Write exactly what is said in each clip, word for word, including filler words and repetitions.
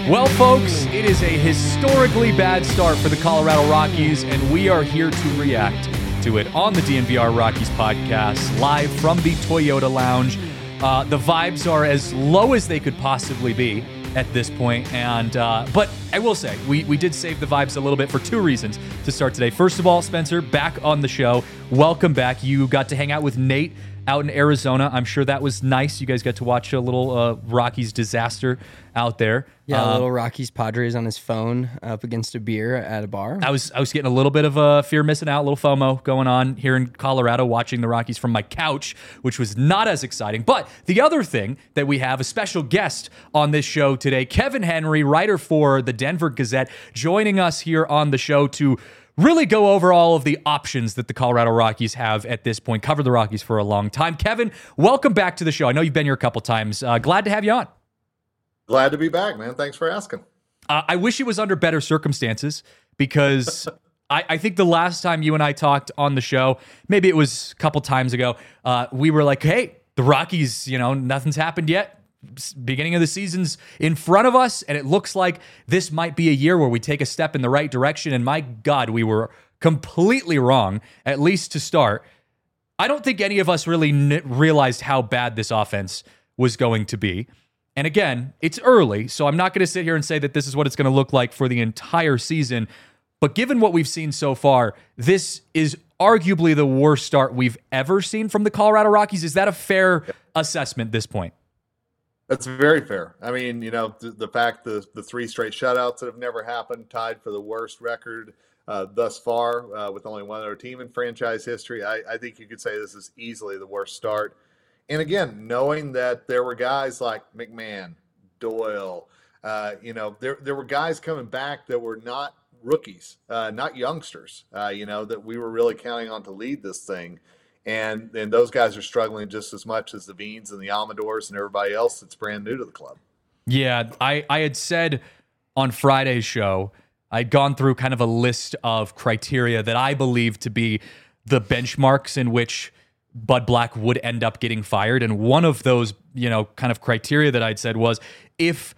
Well, folks, it is a historically bad start for the Colorado Rockies, and we are here to react to it on the D N V R Rockies podcast, live from the Toyota Lounge. Uh, the vibes are as low as they could possibly be at this point, and uh, but I will say, we, we did save the vibes a little bit for two reasons to start today. First of all, Spencer, back on the show. Welcome back. You got to hang out with Nate out in Arizona. I'm sure that was nice. You guys got to watch a little uh, Rockies disaster out there. Yeah, um, a little Rockies Padres on his phone up against a beer at a bar. I was I was getting a little bit of a fear missing out, a little FOMO going on here in Colorado, watching the Rockies from my couch, which was not as exciting. But the other thing that we have, a special guest on this show today, Kevin Henry, writer for the Denver Gazette, joining us here on the show to really go over all of the options that the Colorado Rockies have at this point. Covered the Rockies for a long time. Kevin, welcome back to the show. I know you've been here a couple times. Uh, glad to have you on. Glad to be back, man. Thanks for asking. Uh, I wish it was under better circumstances because I, I think the last time you and I talked on the show, maybe it was a couple times ago, uh, we were like, hey, the Rockies, you know, nothing's happened yet. Beginning of the season's in front of us, and it looks like this might be a year where we take a step in the right direction. And my God, we were completely wrong, at least to start. I don't think any of us really n- realized how bad this offense was going to be. And again, it's early, so I'm not going to sit here and say that this is what it's going to look like for the entire season. But given what we've seen so far, this is arguably the worst start we've ever seen from the Colorado Rockies. Is that a fair assessment at this point? That's very fair. I mean, you know, the, the fact the the three straight shutouts that have never happened, tied for the worst record uh, thus far uh, with only one other team in franchise history. I, I think you could say this is easily the worst start. And again, knowing that there were guys like McMahon, Doyle, uh, you know, there there were guys coming back that were not rookies, uh, not youngsters, uh, you know, that we were really counting on to lead this thing. And and those guys are struggling just as much as the Beans and the Almadors and everybody else that's brand new to the club. Yeah, I, I had said on Friday's show, I'd gone through kind of a list of criteria that I believe to be the benchmarks in which Bud Black would end up getting fired. And one of those, you know, kind of criteria that I'd said was if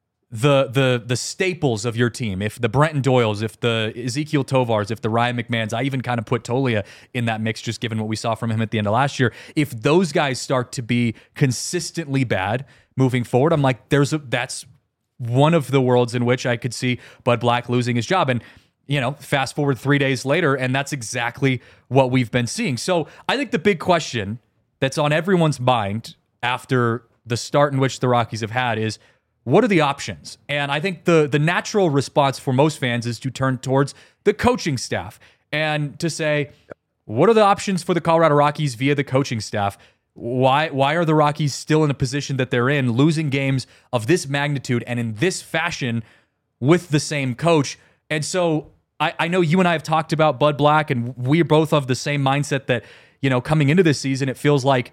the the the staples of your team, if the Brenton Doyles, if the Ezekiel Tovars, if the Ryan McMahons, I even kind of put Tolia in that mix just given what we saw from him at the end of last year. If those guys start to be consistently bad moving forward, I'm like, there's a that's one of the worlds in which I could see Bud Black losing his job. And you know, fast forward three days later, and that's exactly what we've been seeing. So I think the big question that's on everyone's mind after the start in which the Rockies have had is, what are the options? And I think the the natural response for most fans is to turn towards the coaching staff and to say, what are the options for the Colorado Rockies via the coaching staff? Why why are the Rockies still in a position that they're in, losing games of this magnitude and in this fashion with the same coach? And so I, I know you and I have talked about Bud Black, and we're both of the same mindset that, you know, coming into this season, it feels like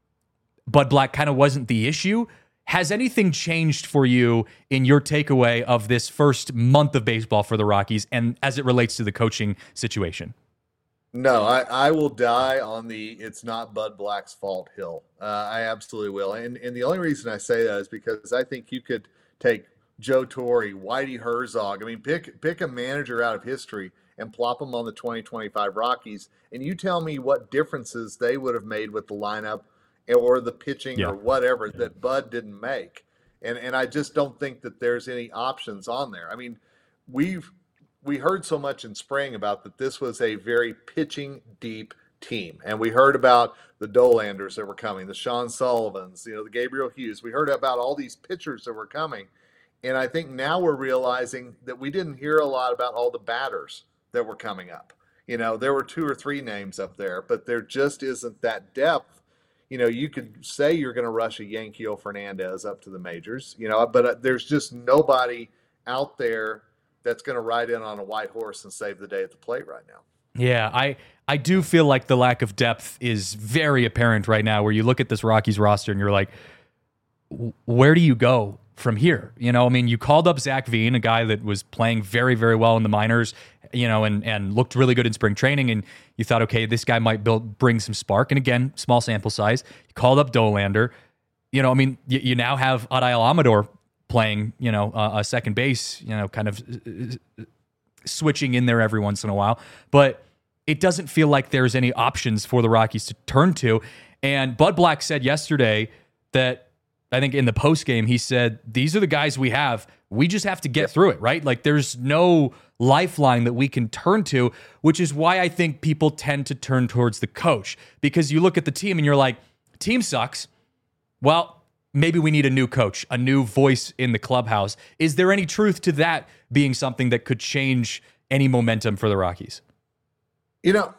Bud Black kind of wasn't the issue. Has anything changed for you in your takeaway of this first month of baseball for the Rockies and as it relates to the coaching situation? No, I, I will die on the it's not Bud Black's fault hill. Uh, I absolutely will. And and the only reason I say that is because I think you could take Joe Torre, Whitey Herzog. I mean, pick pick a manager out of history and plop them on the twenty twenty-five Rockies, and you tell me what differences they would have made with the lineup or the pitching yeah. or whatever yeah. that Bud didn't make. And and I just don't think that there's any options on there. I mean, we've we heard so much in spring about that this was a very pitching deep team. And we heard about the Dolanders that were coming, the Sean Sullivans, you know, the Gabriel Hughes. We heard about all these pitchers that were coming. And I think now we're realizing that we didn't hear a lot about all the batters that were coming up. You know, there were two or three names up there, but there just isn't that depth. You know, you could say you're going to rush a Yankee Fernandez up to the majors, you know, but there's just nobody out there that's going to ride in on a white horse and save the day at the plate right now. Yeah, I, I do feel like the lack of depth is very apparent right now, where you look at this Rockies roster and you're like, where do you go from here? You know, I mean, you called up Zach Veen, a guy that was playing very, very well in the minors, you know, and, and looked really good in spring training. And you thought, okay, this guy might build, bring some spark. And again, small sample size. You called up Dolander. You know, I mean, you, you now have Adael Amador playing, you know, uh, a second base, you know, kind of uh, switching in there every once in a while. But it doesn't feel like there's any options for the Rockies to turn to. And Bud Black said yesterday that, I think in the post game, he said, these are the guys we have. We just have to get yep. through it, right? Like there's no lifeline that we can turn to, which is why I think people tend to turn towards the coach. Because you look at the team and you're like, team sucks. Well, maybe we need a new coach, a new voice in the clubhouse. Is there any truth to that being something that could change any momentum for the Rockies? You know,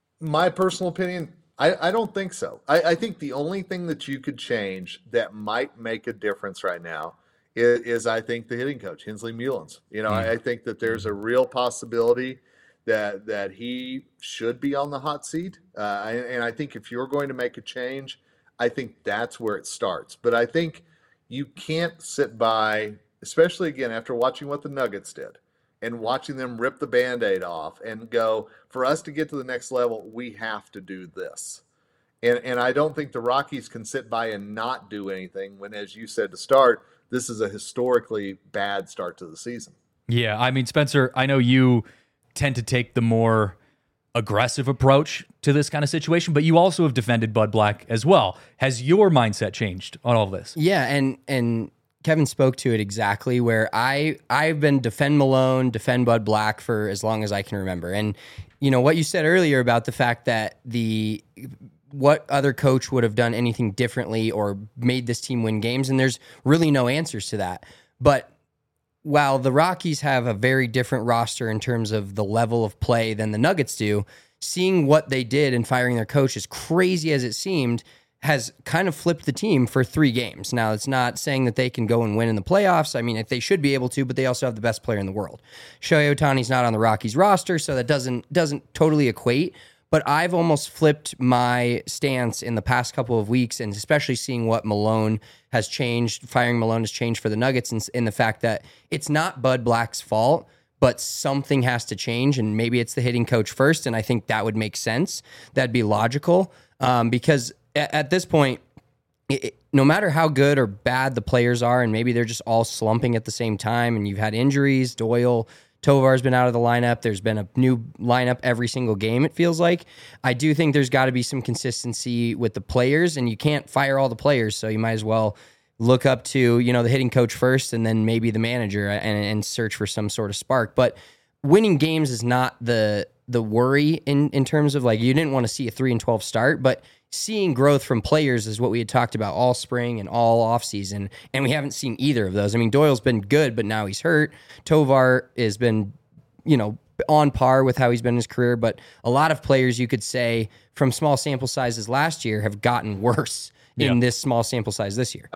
my personal opinion, I, I don't think so. I, I think the only thing that you could change that might make a difference right now is, is I think, the hitting coach, Hensley Mullins. You know, mm. I, I think that there's a real possibility that that he should be on the hot seat. Uh, and, and I think if you're going to make a change, I think that's where it starts. But I think you can't sit by, especially again after watching what the Nuggets did, and watching them rip the Band-Aid off and go, for us to get to the next level, we have to do this. And and I don't think the Rockies can sit by and not do anything when, as you said to start, this is a historically bad start to the season. Yeah, I mean, Spencer, I know you tend to take the more aggressive approach to this kind of situation, but you also have defended Bud Black as well. Has your mindset changed on all of this? Yeah, and and Kevin spoke to it exactly, where I, I've been defend Malone, defend Bud Black for as long as I can remember. And, you know, what you said earlier about the fact that the what other coach would have done anything differently or made this team win games, and there's really no answers to that. But while the Rockies have a very different roster in terms of the level of play than the Nuggets do, seeing what they did in firing their coach, as crazy as it seemed, has kind of flipped the team for three games. Now, it's not saying that they can go and win in the playoffs. I mean, if they should be able to, but they also have the best player in the world. Shohei Ohtani's not on the Rockies roster, so that doesn't doesn't totally equate. But I've almost flipped my stance in the past couple of weeks, and especially seeing what Malone has changed, firing Malone has changed for the Nuggets, in, in the fact that it's not Bud Black's fault, but something has to change, and maybe it's the hitting coach first, and I think that would make sense. That'd be logical, um, because at, at this point, it, it, no matter how good or bad the players are, and maybe they're just all slumping at the same time, and you've had injuries, Doyle, Tovar's been out of the lineup. There's been a new lineup every single game, it feels like. I do think there's got to be some consistency with the players, and you can't fire all the players, so you might as well look up to, you know, the hitting coach first and then maybe the manager and, and search for some sort of spark. But winning games is not the the worry in, in terms of, like, you didn't want to see a three and twelve start, but seeing growth from players is what we had talked about all spring and all offseason, and we haven't seen either of those. I mean, Doyle's been good, but now he's hurt. Tovar has been, you know, on par with how he's been in his career, but a lot of players, you could say, from small sample sizes last year, have gotten worse in yeah. this small sample size this year.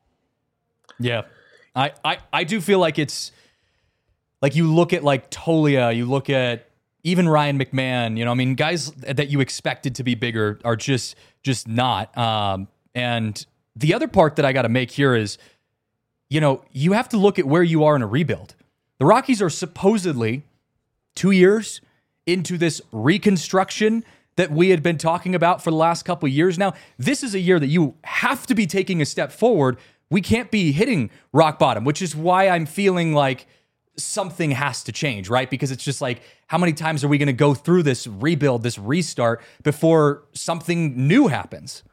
Yeah. I, I, I do feel like it's, like, you look at, like, Tolia, you look at even Ryan McMahon, you know, I mean, guys that you expected to be bigger are just just not. Um, and the other part that I got to make here is, you know, you have to look at where you are in a rebuild. The Rockies are supposedly two years into this reconstruction that we had been talking about for the last couple of years now. This is a year that you have to be taking a step forward. We can't be hitting rock bottom, which is why I'm feeling like something has to change, right? Because it's just like, how many times are we going to go through this rebuild, this restart, before something new happens?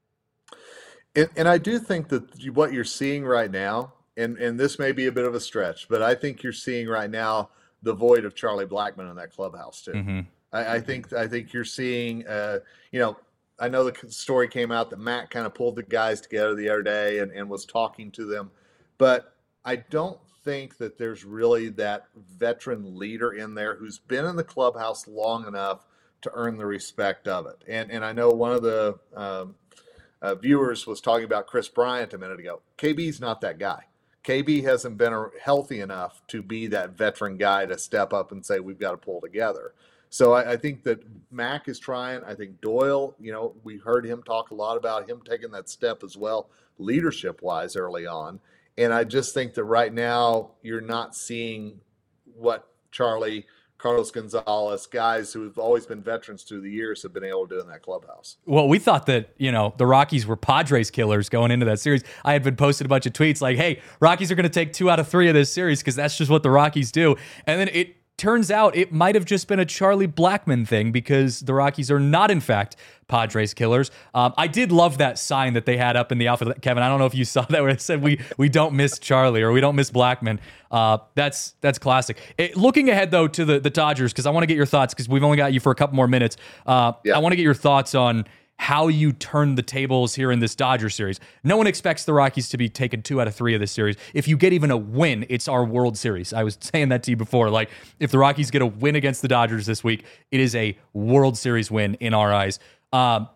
And, and I do think that what you're seeing right now, and, and this may be a bit of a stretch, but I think you're seeing right now the void of Charlie Blackmon in that clubhouse too. Mm-hmm. I, I think I think you're seeing, uh, you know, I know the story came out that Matt kind of pulled the guys together the other day and, and was talking to them, but I don't think that there's really that veteran leader in there who's been in the clubhouse long enough to earn the respect of it. And and I know one of the um, uh, viewers was talking about Chris Bryant a minute ago. K B's not that guy. K B hasn't been a, healthy enough to be that veteran guy to step up and say, we've got to pull together. So I, I think that Mac is trying. I think Doyle, you know, we heard him talk a lot about him taking that step as well, leadership-wise early on. And I just think that right now you're not seeing what Charlie Carlos Gonzalez, guys who have always been veterans through the years have been able to do in that clubhouse. Well, we thought that, you know, the Rockies were Padres killers going into that series. I had been posted a bunch of tweets like, hey, Rockies are going to take two out of three of this series because that's just what the Rockies do. And then it turns out it might have just been a Charlie Blackmon thing because the Rockies are not, in fact, Padres killers. Um, I did love that sign that they had up in the outfield. Kevin, I don't know if you saw that where it said, we we don't miss Charlie or we don't miss Blackmon. Uh, that's that's classic. It, looking ahead, though, to the, the Dodgers, because I want to get your thoughts because we've only got you for a couple more minutes. Uh, yeah. I want to get your thoughts on how you turn the tables here in this Dodger series. No one expects the Rockies to be taking two out of three of this series. If you get even a win, it's our World Series. I was saying that to you before. Like, if the Rockies get a win against the Dodgers this week, it is a World Series win in our eyes. Um,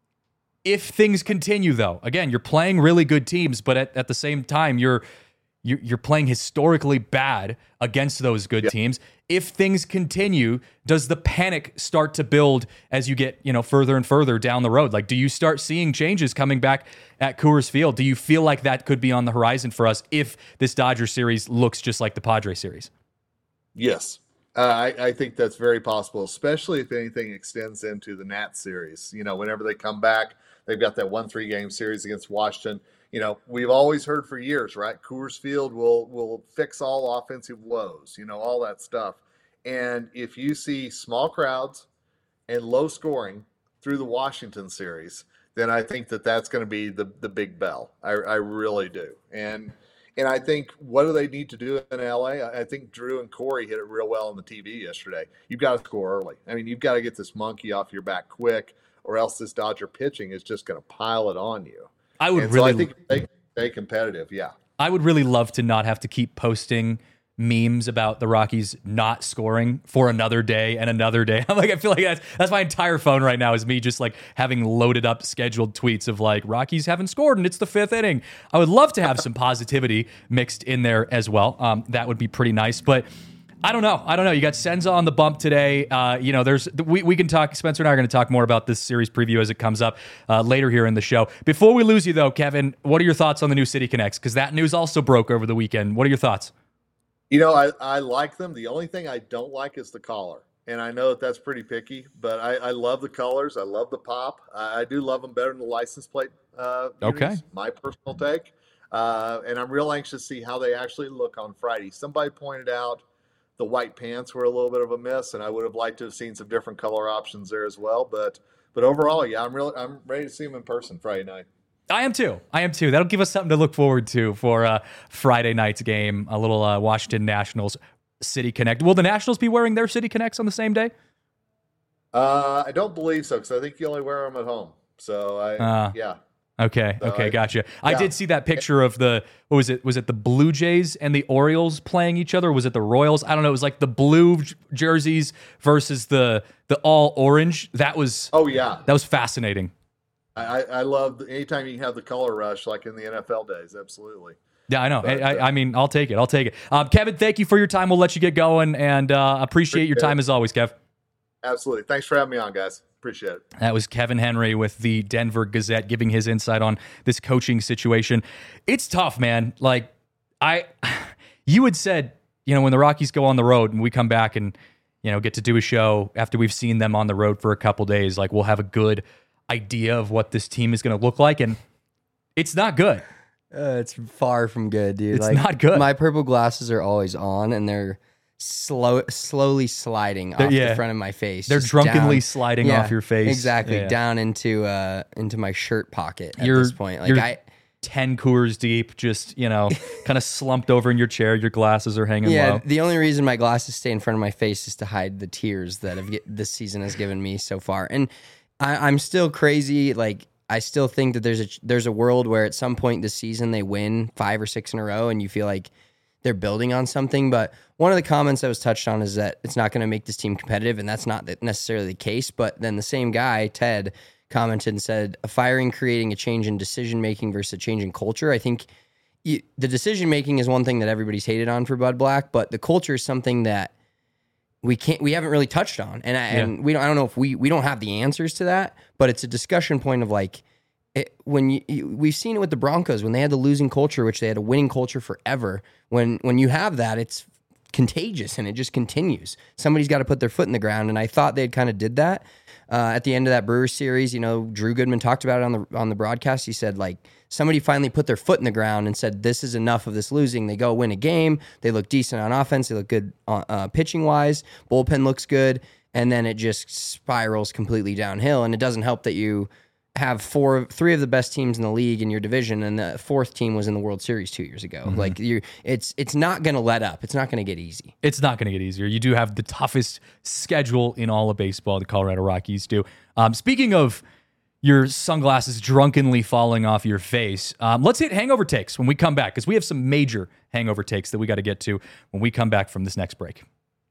if things continue, though, again, you're playing really good teams, but at, at the same time, you're you're playing historically bad against those good yep. teams. If things continue, does the panic start to build as you get, you know, further and further down the road? Like, do you start seeing changes coming back at Coors Field? Do you feel like that could be on the horizon for us if this Dodger series looks just like the Padres series? Yes. Uh, I, I think that's very possible, especially if anything extends into the Nats series. You know, whenever they come back, they've got that one three game series against Washington. You know, we've always heard for years, right? Coors Field will will fix all offensive woes, you know, all that stuff. And if you see small crowds and low scoring through the Washington series, then I think that that's going to be the the big bell. I, I really do. And and I think what do they need to do in L A? I think Drew and Corey hit it real well on the T V yesterday. You've got to score early. I mean, you've got to get this monkey off your back quick, or else this Dodger pitching is just going to pile it on you. I would and really so I think they stay competitive. Yeah. I would really love to not have to keep posting memes about the Rockies not scoring for another day and another day. I'm like, I feel like that's that's my entire phone right now is me just like having loaded up scheduled tweets of like Rockies haven't scored and it's the fifth inning. I would love to have some positivity mixed in there as well. Um, that would be pretty nice, but I don't know. I don't know. You got Senza on the bump today. Uh, you know, there's we, we can talk. Spencer and I are going to talk more about this series preview as it comes up uh, later here in the show. Before we lose you, though, Kevin, what are your thoughts on the new City Connects? Because that news also broke over the weekend. What are your thoughts? You know, I, I like them. The only thing I don't like is the collar. And I know that that's pretty picky, but I, I love the colors. I love the pop. I, I do love them better than the license plate. Uh, okay. Unis, my personal take. Uh, and I'm real anxious to see how they actually look on Friday. Somebody pointed out the white pants were a little bit of a miss, and I would have liked to have seen some different color options there as well. But but overall, yeah, I'm really I'm ready to see them in person Friday night. I am too. I am too. That'll give us something to look forward to for uh, Friday night's game. A little uh, Washington Nationals City Connect. Will the Nationals be wearing their City Connects on the same day? Uh, I don't believe so, because I think you only wear them at home. So I uh, yeah. Okay. So okay. I, Gotcha. I yeah. did see that picture of the, what was it? Was it the Blue Jays and the Orioles playing each other? Or was it the Royals? I don't know. It was like the blue j- jerseys versus the, the all orange. That was, oh yeah. That was fascinating. I, I love anytime you can have the color rush, like in the N F L days. Absolutely. Yeah, I know. But, I, uh, I mean, I'll take it. I'll take it. Um, Kevin, thank you for your time. We'll let you get going and uh, appreciate your time as always, Kev. Absolutely. Thanks for having me on, guys. Appreciate it. That was Kevin Henry with the Denver Gazette giving his insight on this coaching situation. It's tough, man. Like, I, you had said, you know, when the Rockies go on the road and we come back and, you know, get to do a show after we've seen them on the road for a couple days, like we'll have a good idea of what this team is going to look like. And it's not good. Uh, it's far from good, dude. It's like, not good. My purple glasses are always on, and they're slow, slowly sliding They're, off yeah. the front of my face. They're just drunkenly down, sliding yeah, off your face. Exactly, Yeah. down into uh into my shirt pocket at You're- this point. Like you're- I, ten Coors deep, just, you know, kind of slumped over in your chair. Your glasses are hanging yeah. low. The only reason my glasses stay in front of my face is to hide the tears that have get, this season has given me so far. And I, I'm still crazy. Like I still think that there's a there's a world where at some point this season they win five or six in a row, and you feel like they're building on something. But one of the comments that was touched on is that it's not going to make this team competitive, and that's not necessarily the case. But then the same guy, Ted, commented and said, a firing creating a change in decision-making versus a change in culture. I think you, the decision-making is one thing that everybody's hated on for Bud Black, but the culture is something that we can't, we haven't really touched on. And I, Yeah. and we don't, I don't know if we, we don't have the answers to that, but it's a discussion point of like, it, when you, you, we've seen it with the Broncos when they had the losing culture, which they had a winning culture forever. When when you have that, it's contagious and it just continues. Somebody's got to put their foot in the ground, and I thought they'd kind of did that uh, at the end of that Brewers series. You know, Drew Goodman talked about it on the on the broadcast. He said, like, somebody finally put their foot in the ground and said, this is enough of this losing. They go win a game. They look decent on offense. They look good uh, uh, pitching wise. Bullpen looks good, and then it just spirals completely downhill. And it doesn't help that you have four, three of the best teams in the league in your division, and the fourth team was in the World Series two years ago. Mm-hmm. Like you, it's it's not going to let up. It's not going to get easy. It's not going to get easier. You do have the toughest schedule in all of baseball. The Colorado Rockies do. Um, speaking of your sunglasses drunkenly falling off your face, um, let's hit hangover takes when we come back, because we have some major hangover takes that we got to get to when we come back from this next break.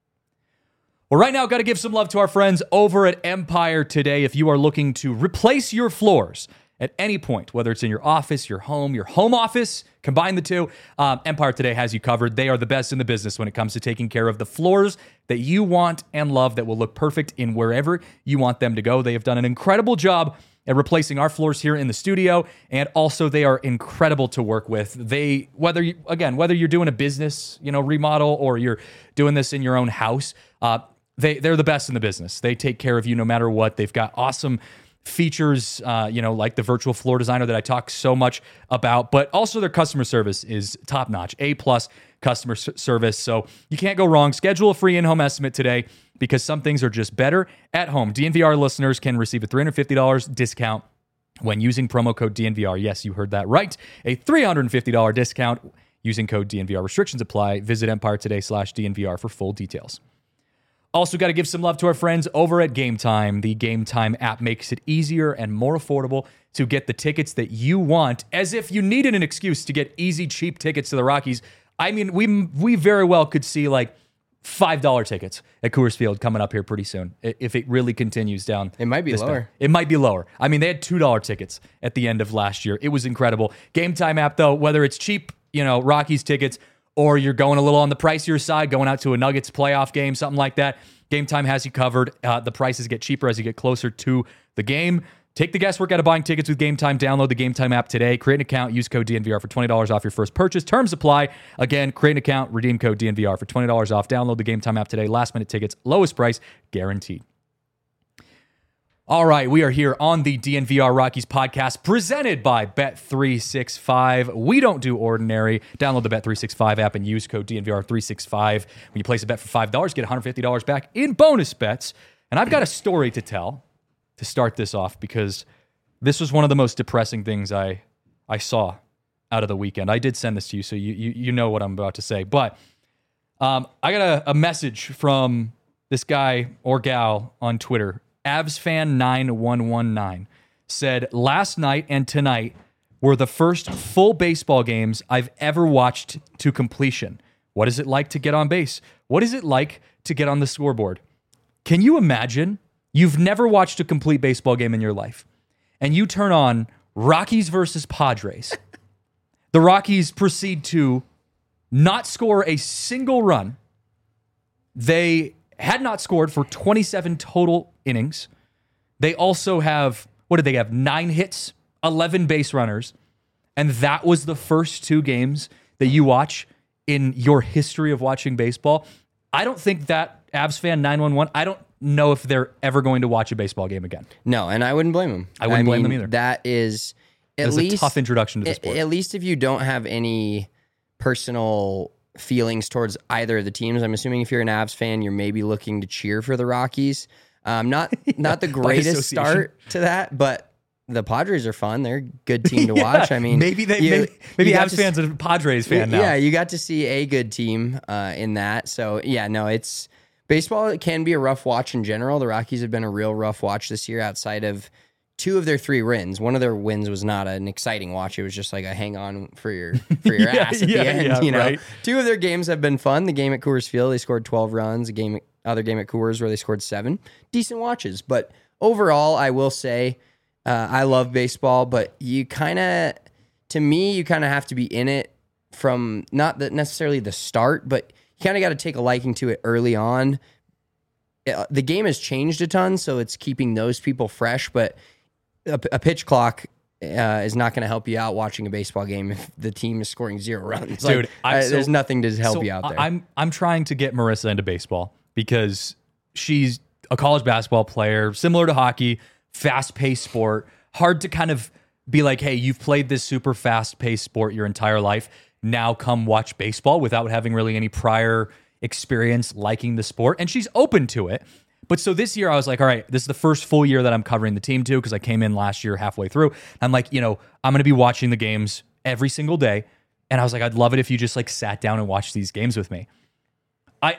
Well, right now, got to give some love to our friends over at Empire Today. If you are looking to replace your floors at any point, whether it's in your office, your home, your home office, combine the two, um, Empire Today has you covered. They are the best in the business when it comes to taking care of the floors that you want and love that will look perfect in wherever you want them to go. They have done an incredible job at replacing our floors here in the studio, and also they are incredible to work with. They, whether you, again, whether you're doing a business, you know, remodel, or you're doing this in your own house, uh, They, they're the best in the business. They take care of you no matter what. They've got awesome features, uh, you know, like the virtual floor designer that I talk so much about, but also their customer service is top-notch, A-plus customer s- service. So you can't go wrong. Schedule a free in-home estimate today, because some things are just better at home. D N V R listeners can receive a three hundred fifty dollars discount when using promo code D N V R. Yes, you heard that right. A three hundred fifty dollars discount using code D N V R. Restrictions apply. Visit Empire Today slash D N V R for full details. Also, got to give some love to our friends over at Game Time. The Game Time app makes it easier and more affordable to get the tickets that you want, as if you needed an excuse to get easy, cheap tickets to the Rockies. I mean, we we very well could see like five dollar tickets at Coors Field coming up here pretty soon, if it really continues down. It might be lower. Path. It might be lower. I mean, they had two dollar tickets at the end of last year. It was incredible. Game Time app, though, whether it's cheap, you know, Rockies tickets, or you're going a little on the pricier side, going out to a Nuggets playoff game, something like that, Game Time has you covered. Uh, the prices get cheaper as you get closer to the game. Take the guesswork out of buying tickets with Game Time. Download the Game Time app today. Create an account. Use code D N V R for twenty dollars off your first purchase. Terms apply. Again, create an account. Redeem code D N V R for twenty dollars off. Download the Game Time app today. Last minute tickets. Lowest price guaranteed. All right, we are here on the D N V R Rockies podcast, presented by Bet three sixty-five. We don't do ordinary. Download the Bet three sixty-five app and use code D N V R three sixty-five. When you place a bet for five dollars, get one hundred fifty dollars back in bonus bets. And I've got a story to tell to start this off, because this was one of the most depressing things I I saw out of the weekend. I did send this to you, so you you, you know what I'm about to say. But um, I got a, a message from this guy or gal on Twitter. Avsfan nine one one nine said, last night and tonight were the first full baseball games I've ever watched to completion. What is it like to get on base? What is it like to get on the scoreboard? Can you imagine? You've never watched a complete baseball game in your life, and you turn on Rockies versus Padres. The Rockies proceed to not score a single run. They had not scored for twenty-seven total innings. They also have, what did they have? Nine hits, eleven base runners. And that was the first two games that you watch in your history of watching baseball. I don't think that Avsfan nine one one, I don't know if they're ever going to watch a baseball game again. No, and I wouldn't blame them. I wouldn't I blame mean, them either. That is at That's least a tough introduction to the at, sport. At least if you don't have any personal feelings towards either of the teams. I'm assuming if you're an Avs fan, you're maybe looking to cheer for the Rockies. Um, not yeah, not the greatest start to that, but the Padres are fun. They're a good team to yeah, watch. I mean, maybe they you, maybe, maybe you Avs fans are a Padres fan now. Yeah, you got to see a good team uh, in that. So yeah, no, it's baseball. It can be a rough watch in general. The Rockies have been a real rough watch this year. Outside of two of their three wins, one of their wins was not an exciting watch. It was just like a hang on for your for your yeah, ass at yeah, the end. yeah, you know, right. Two of their games have been fun. The game at Coors Field, they scored twelve runs. A game, other game at Coors where they scored seven. Decent watches, but overall, I will say uh, I love baseball. But you kind of, to me, you kind of have to be in it from not the, necessarily the start, but you kind of got to take a liking to it early on. It, the game has changed a ton, so it's keeping those people fresh, but a, a pitch clock uh, is not going to help you out watching a baseball game if the team is scoring zero runs. Dude, like, I, uh, so, there's nothing to help so you out there. I'm I'm trying to get Marissa into baseball because she's a college basketball player, similar to hockey, fast-paced sport. Hard to kind of be like, hey, you've played this super fast-paced sport your entire life. Now come watch baseball without having really any prior experience liking the sport. And she's open to it. But so this year I was like, all right, this is the first full year that I'm covering the team too, because I came in last year halfway through. I'm like, you know, I'm going to be watching the games every single day. And I was like, I'd love it if you just like sat down and watched these games with me. I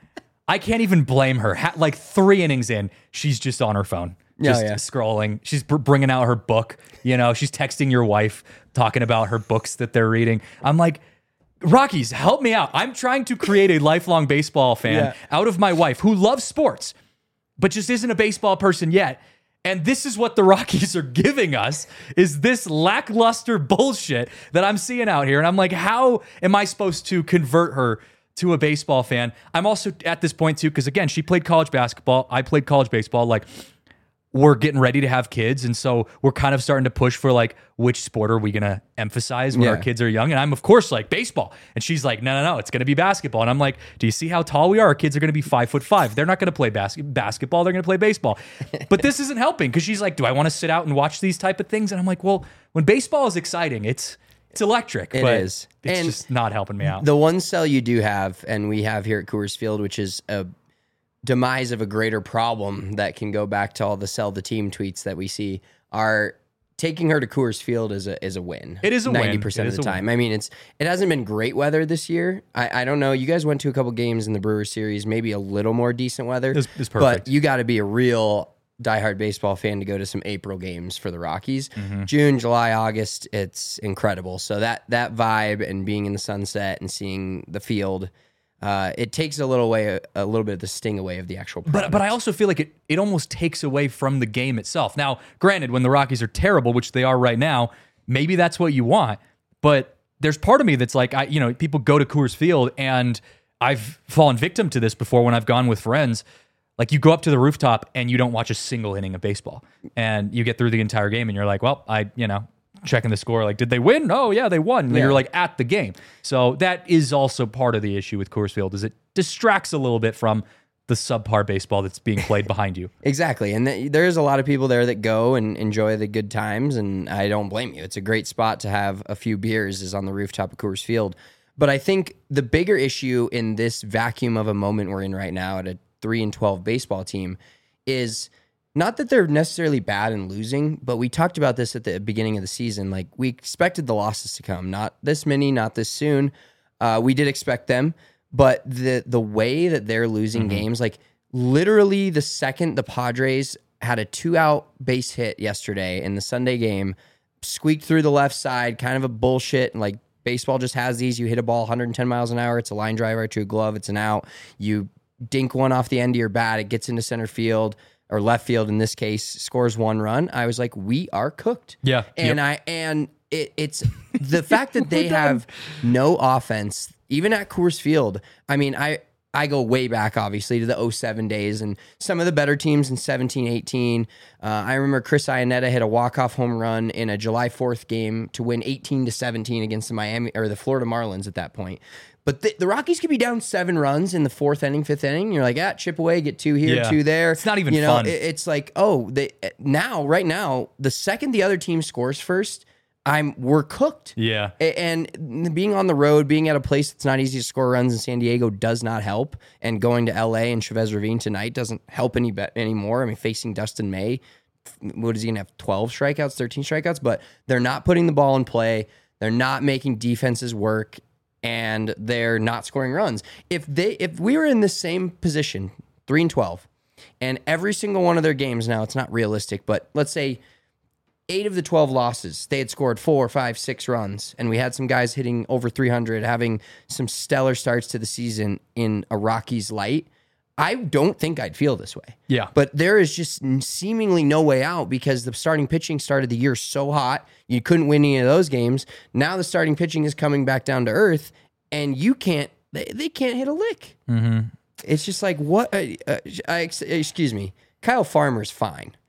I can't even blame her. Ha- like three innings in, she's just on her phone. Just Oh, yeah. scrolling. She's br- bringing out her book. You know, she's texting your wife, talking about her books that they're reading. I'm like, Rockies, help me out. I'm trying to create a lifelong baseball fan Yeah. out of my wife who loves sports, but just isn't a baseball person yet. And this is what the Rockies are giving us, is this lackluster bullshit that I'm seeing out here. And I'm like, how am I supposed to convert her to a baseball fan? I'm also at this point too, because again, she played college basketball. I played college baseball. Like, we're getting ready to have kids. And so we're kind of starting to push for like, which sport are we going to emphasize when Yeah. our kids are young? And I'm of course like baseball. And she's like, no, no, no, it's going to be basketball. And I'm like, do you see how tall we are? Our kids are going to be five foot five. They're not going to play bas- basketball. They're going to play baseball. But this isn't helping because she's like, do I want to sit out and watch these type of things? And I'm like, well, when baseball is exciting, it's, it's electric. It but is. It's And just not helping me out. The one sell you do have, and we have here at Coors Field, which is a demise of a greater problem that can go back to all the sell the team tweets that we see, are taking her to Coors Field is a is a win. It is a win. ninety percent It of is the a time. I mean, it's it hasn't been great weather this year. I, I don't know. You guys went to a couple games in the Brewers series, maybe a little more decent weather. It's- it's perfect. But you got to be a real diehard baseball fan to go to some April games for the Rockies. Mm-hmm. June, July, August, it's incredible. So that that vibe and being in the sunset and seeing the field, uh, it takes a little way, a little bit of the sting away of the actual product. But but I also feel like it it almost takes away from the game itself. Now, granted, when the Rockies are terrible, which they are right now, maybe that's what you want. But there's part of me that's like, I you know, people go to Coors Field, and I've fallen victim to this before when I've gone with friends. Like, you go up to the rooftop and you don't watch a single inning of baseball, and you get through the entire game, and you're like, well, I you know. checking the score, like, did they win? Oh yeah, they won. And Yeah. you're like at the game. So that is also part of the issue with Coors Field, is it distracts a little bit from the subpar baseball that's being played behind you. Exactly. And th- there's a lot of people there that go and enjoy the good times, and I don't blame you. It's a great spot to have a few beers, is on the rooftop of Coors Field. But I think the bigger issue in this vacuum of a moment we're in right now at a three and twelve baseball team is not that they're necessarily bad and losing, but we talked about this at the beginning of the season. Like, we expected the losses to come, not this many, not this soon. Uh, we did expect them, but the the way that they're losing Mm-hmm. games, like literally the second the Padres had a two out base hit yesterday in the Sunday game, squeaked through the left side, kind of a bullshit. Like, baseball just has these. You hit a ball one hundred ten miles an hour. It's a line driver to a glove. It's an out. You dink one off the end of your bat. It gets into center field or left field in this case, scores one run. I was like, we are cooked. Yeah. And I and it, it's the fact that they have no offense, even at Coors Field. I mean, I I go way back, obviously, to the oh seven days and some of the better teams in seventeen, eighteen. Uh, I remember Chris Iannetta hit a walk-off home run in a July fourth game to win eighteen to seventeen against the Miami or the Florida Marlins at that point. But the, the Rockies could be down seven runs in the fourth inning, fifth inning. You're like, ah, chip away, get two here, Yeah. two there. It's not even you know, fun. it- it's like, oh, they now, right now, the second the other team scores first, I'm we're cooked. Yeah. A- And being on the road, being at a place that's not easy to score runs in San Diego does not help. And going to L A and Chavez Ravine tonight doesn't help any bet anymore. I mean, facing Dustin May, what is he gonna have? twelve strikeouts, thirteen strikeouts, but they're not putting the ball in play. They're not making defenses work, and they're not scoring runs. If they, if we were in the same position, three and twelve, and every single one of their games, now it's not realistic, but let's say eight of the twelve losses, they had scored four, five, six runs, and we had some guys hitting over three hundred, having some stellar starts to the season in a Rockies light, I don't think I'd feel this way. Yeah. But there is just seemingly no way out because the starting pitching started the year so hot, you couldn't win any of those games. Now the starting pitching is coming back down to earth, and you can't, they, they can't hit a lick. Mm-hmm. It's just like, what? Uh, uh, I, excuse me, Kyle Farmer's fine.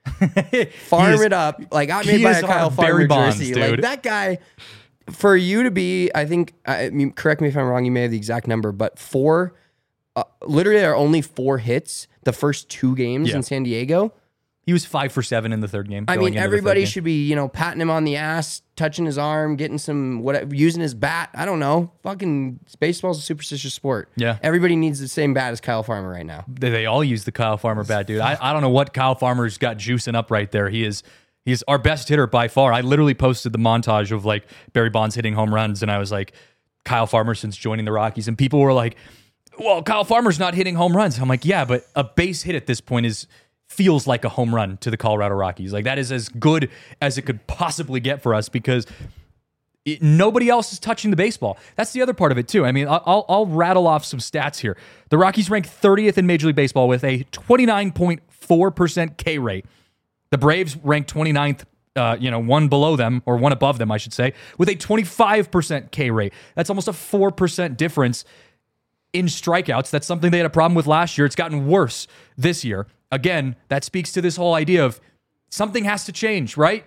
Farm is- it up. Like, got he made by is a our Kyle Farmer Barry Bonds, jersey. dude. Like, that guy, for you to be, I think, I mean, correct me if I'm wrong, you may have the exact number, but four, uh, literally there are only four hits the first two games Yeah. in San Diego. He was five for seven in the third game. I going mean, into the third everybody game. should be, you know, patting him on the ass, touching his arm, getting some, whatever, using his bat. I don't know. Fucking baseball's a superstitious sport. Yeah. Everybody needs the same bat as Kyle Farmer right now. They, they all use the Kyle Farmer bat, dude. I, I don't know what Kyle Farmer's got juicing up right there. He is he's our best hitter by far. I literally posted the montage of like Barry Bonds hitting home runs, and I was like, Kyle Farmer since joining the Rockies, and people were like, well, Kyle Farmer's not hitting home runs. I'm like, yeah, but a base hit at this point is feels like a home run to the Colorado Rockies. Like, that is as good as it could possibly get for us because it, nobody else is touching the baseball. That's the other part of it too. I mean, I'll, I'll rattle off some stats here. The Rockies rank thirtieth in Major League Baseball with a twenty-nine point four percent K rate. The Braves rank twenty-ninth, uh, you know, one below them, or one above them, I should say, with a twenty-five percent K rate. That's almost a four percent difference in strikeouts. That's something they had a problem with last year. It's gotten worse this year. Again, that speaks to this whole idea of something has to change, right?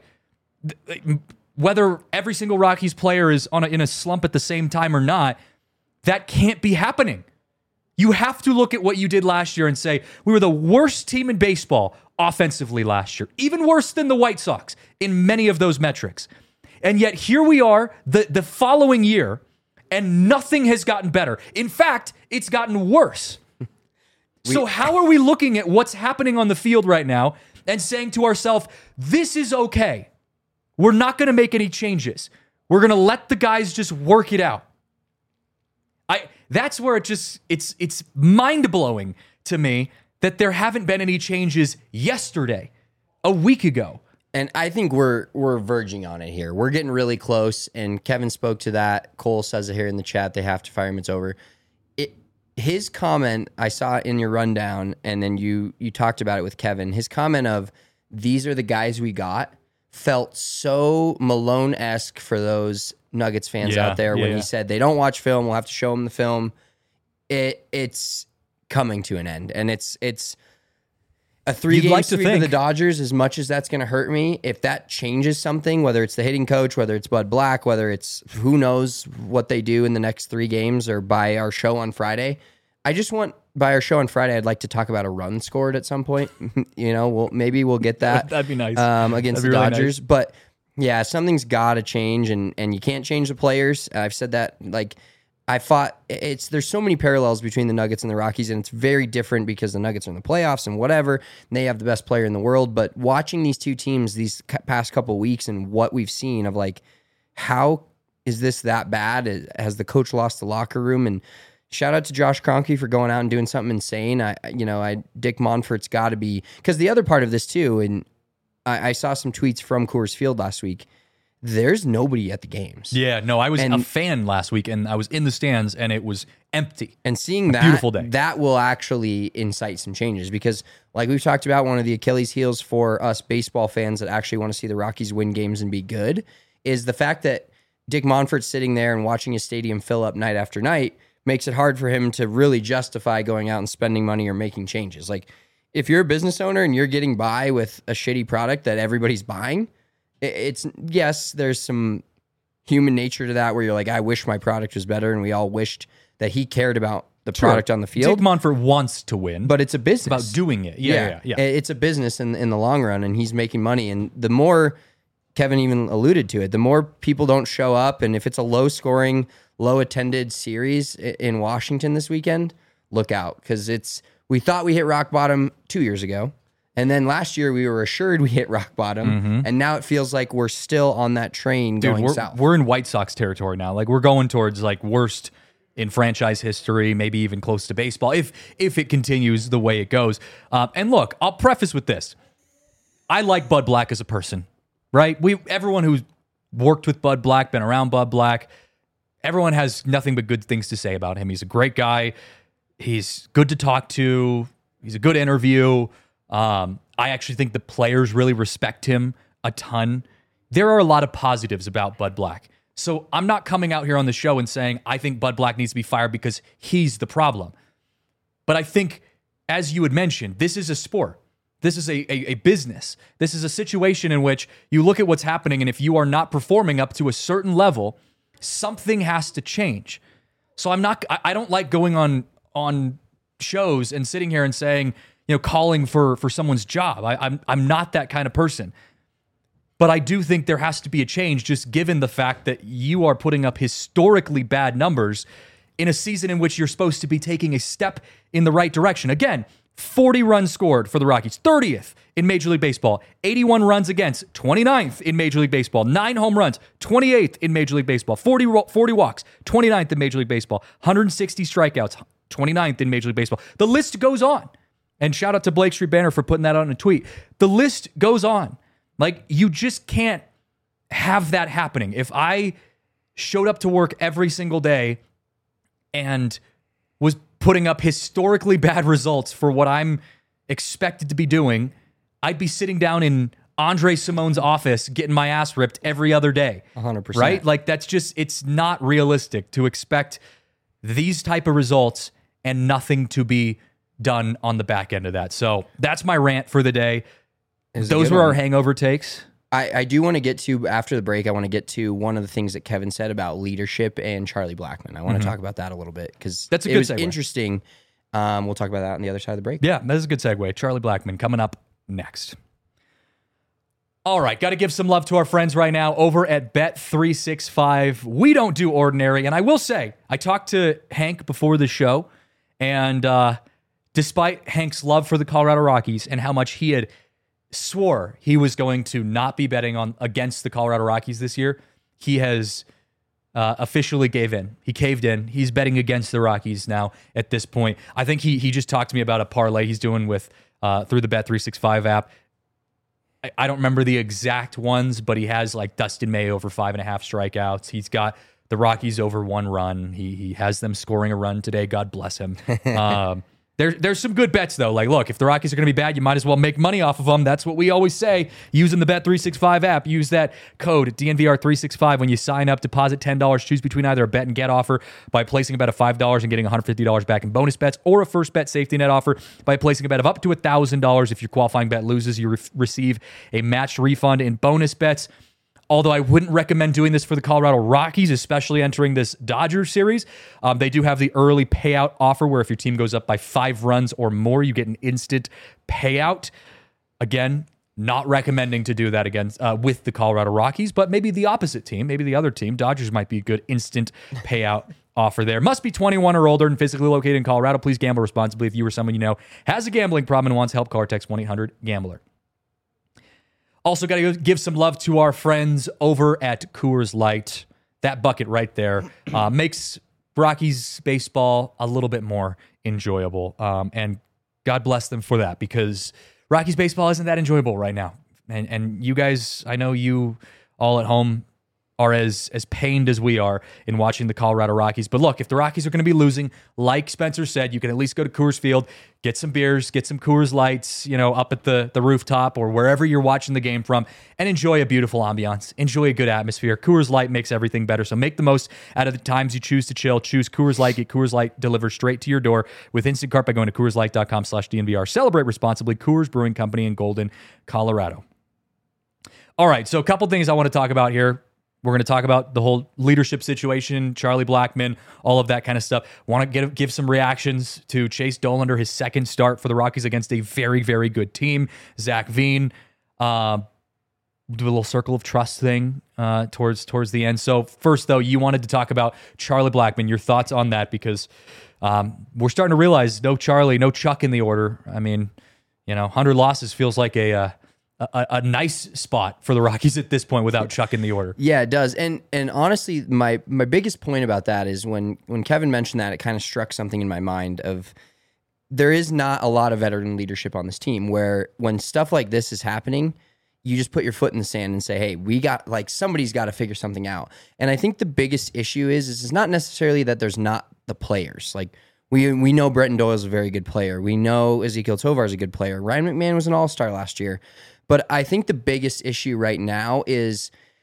Whether every single Rockies player is on a, in a slump at the same time or not, that can't be happening. You have to look at what you did last year and say, we were the worst team in baseball offensively last year, even worse than the White Sox in many of those metrics. And yet here we are the, the following year, and nothing has gotten better. In fact, it's gotten worse. So how are we looking at what's happening on the field right now and saying to ourselves, this is okay. We're not going to make any changes. We're going to let the guys just work it out. I that's where it just it's it's mind-blowing to me that there haven't been any changes yesterday, a week ago. And I think we're we're verging on it here. We're getting really close, and Kevin spoke to that. Cole says it here in the chat. They have to fire him. It's over. It his comment I saw in your rundown, and then you you talked about it with Kevin. His comment of these are the guys we got felt so Malone-esque for those Nuggets fans Yeah, out there yeah, when yeah. he said they don't watch film. We'll have to show them the film. It it's coming to an end, and it's it's. A three-game like to sweep of think. the Dodgers, as much as that's going to hurt me, if that changes something, whether it's the hitting coach, whether it's Bud Black, whether it's who knows what they do in the next three games or by our show on Friday, I just want, by our show on Friday, I'd like to talk about a run scored at some point. you know, we'll, maybe we'll get that. That'd be nice. Um, against That'd the be really Dodgers. nice. But yeah, something's got to change, and, and you can't change the players. I've said that, like, I fought it's there's so many parallels between the Nuggets and the Rockies, and it's very different because the Nuggets are in the playoffs and whatever, and they have the best player in the world. But watching these two teams these past couple weeks and what we've seen of like, how is this that bad? Has the coach lost the locker room? And shout out to Josh Kroenke for going out and doing something insane. I you know I Dick Monfort's got to be, because the other part of this too, and I, I saw some tweets from Coors Field last week. There's nobody at the games. Yeah, no, I was And- a fan last week, and I was in the stands, and it was empty. And seeing that, beautiful day. that will actually incite some changes because, like we've talked about, one of the Achilles heels for us baseball fans that actually want to see the Rockies win games and be good is the fact that Dick Monfort's sitting there and watching his stadium fill up night after night makes it hard for him to really justify going out and spending money or making changes. Like, if you're a business owner and you're getting by with a shitty product that everybody's buying, it- it's, yes, there's some human nature to that where you're like, I wish my product was better, and we all wished that he cared about the product on the field. Dick Monfort wants to win, But it's a business. about doing it. Yeah, yeah, yeah. It- It's a business in in the long run, and he's making money. And the more, Kevin even alluded to it, the more people don't show up, and if it's a low scoring, low attended series i- in Washington this weekend, look out, because it's we thought we hit rock bottom two years ago. And then last year we were assured we hit rock bottom, and now it feels like we're still on that train Dude, going we're, south. we're in White Sox territory now. Like, we're going towards like worst in franchise history, maybe even close to baseball, if if it continues the way it goes. Uh, and look, I'll preface with this: I like Bud Black as a person, right? We everyone who's worked with Bud Black, been around Bud Black, everyone has nothing but good things to say about him. He's a great guy. He's good to talk to. He's a good interview. Um, I actually think the players really respect him a ton. There are a lot of positives about Bud Black. So I'm not coming out here on the show and saying I think Bud Black needs to be fired because he's the problem. But I think, as you had mentioned, this is a sport. This is a, a, a business. This is a situation in which you look at what's happening, and if you are not performing up to a certain level, something has to change. So I'm not, I, I don't like going on on shows and sitting here and saying, you know, calling for for someone's job. I, I'm I'm not that kind of person. But I do think there has to be a change, just given the fact that you are putting up historically bad numbers in a season in which you're supposed to be taking a step in the right direction. Again, forty runs scored for the Rockies, thirtieth in Major League Baseball, eighty-one runs against, twenty-ninth in Major League Baseball, nine home runs, twenty-eighth in Major League Baseball, forty, forty walks, twenty-ninth in Major League Baseball, one hundred sixty strikeouts, twenty-ninth in Major League Baseball. The list goes on. And shout out to Blake Street Banner for putting that out in a tweet. The list goes on. Like, you just can't have that happening. If I showed up to work every single day and was putting up historically bad results for what I'm expected to be doing, I'd be sitting down in Andre Simone's office getting my ass ripped every other day. one hundred percent. Right? Like, that's just, it's not realistic to expect these type of results and nothing to be done on the back end of that. So that's my rant for the day. Those were one. our hangover takes. I, I do want to get to, after the break, I want to get to one of the things that Kevin said about leadership and Charlie Blackmon. I want Mm-hmm. to talk about that a little bit because That's a it good was segue. interesting. Um, we'll talk about that on the other side of the break. Yeah, that is a good segue. Charlie Blackmon coming up next. All right, got to give some love to our friends right now over at Bet three sixty-five. We don't do ordinary. And I will say, I talked to Hank before the show, and uh, despite Hank's love for the Colorado Rockies and how much he had swore he was going to not be betting on against the Colorado Rockies this year, he has uh, officially gave in. He caved in. He's betting against the Rockies now at this point. I think he he just talked to me about a parlay he's doing with uh, through the Bet three sixty-five app. I, I don't remember the exact ones, but he has like Dustin May over five and a half strikeouts. He's got the Rockies over one run. He he has them scoring a run today. God bless him. Um, There, there's some good bets, though. Like, look, if the Rockies are going to be bad, you might as well make money off of them. That's what we always say. Using the Bet three sixty-five app, use that code D N V R three sixty-five when you sign up. Deposit ten dollars. Choose between either a bet and get offer by placing a bet of five dollars and getting one hundred fifty dollars back in bonus bets, or a first bet safety net offer by placing a bet of up to one thousand dollars. If your qualifying bet loses, you re- receive a matched refund in bonus bets. Although I wouldn't recommend doing this for the Colorado Rockies, especially entering this Dodgers series. Um, they do have the early payout offer where if your team goes up by five runs or more, you get an instant payout. Again, not recommending to do that against uh, with the Colorado Rockies, but maybe the opposite team, maybe the other team, Dodgers might be a good instant payout offer there. Must be twenty-one or older and physically located in Colorado. Please gamble responsibly. If you or someone you know has a gambling problem and wants help, call or text one eight hundred gambler. Also, got to give some love to our friends over at Coors Light. That bucket right there uh, makes Rockies baseball a little bit more enjoyable. Um, and God bless them for that, because Rockies baseball isn't that enjoyable right now. And and you guys, I know you all at home are as as pained as we are in watching the Colorado Rockies. But look, if the Rockies are going to be losing, like Spencer said, you can at least go to Coors Field, get some beers, get some Coors Lights, you know, up at the, the rooftop or wherever you're watching the game from, and enjoy a beautiful ambiance. Enjoy a good atmosphere. Coors Light makes everything better. So make the most out of the times you choose to chill. Choose Coors Light. Get Coors Light delivered straight to your door with Instant Cart by going to CoorsLight.com slash DNVR. Celebrate responsibly. Coors Brewing Company in Golden, Colorado. All right, so a couple things I want to talk about here. We're going to talk about the whole leadership situation, Charlie Blackmon, all of that kind of stuff. Want to get, give some reactions to Chase Dollander, his second start for the Rockies against a very, very good team. Zach Veen, uh, do a little circle of trust thing uh, towards towards the end. So first, though, you wanted to talk about Charlie Blackmon. Your thoughts on that, because um, we're starting to realize no Charlie, no Chuck in the order. I mean, you know, one hundred losses feels like a... Uh, A, a nice spot for the Rockies at this point without Chuck in the order. Yeah, it does. And and honestly, my my biggest point about that is when when Kevin mentioned that, it kind of struck something in my mind of there is not a lot of veteran leadership on this team, where when stuff like this is happening, you just put your foot in the sand and say, hey, we got, like, somebody's got to figure something out. And I think the biggest issue is, is it's not necessarily that there's not the players. Like, we we know Bretton Doyle is a very good player. We know Ezekiel Tovar is a good player. Ryan McMahon was an all-star last year. But I think the biggest issue right now is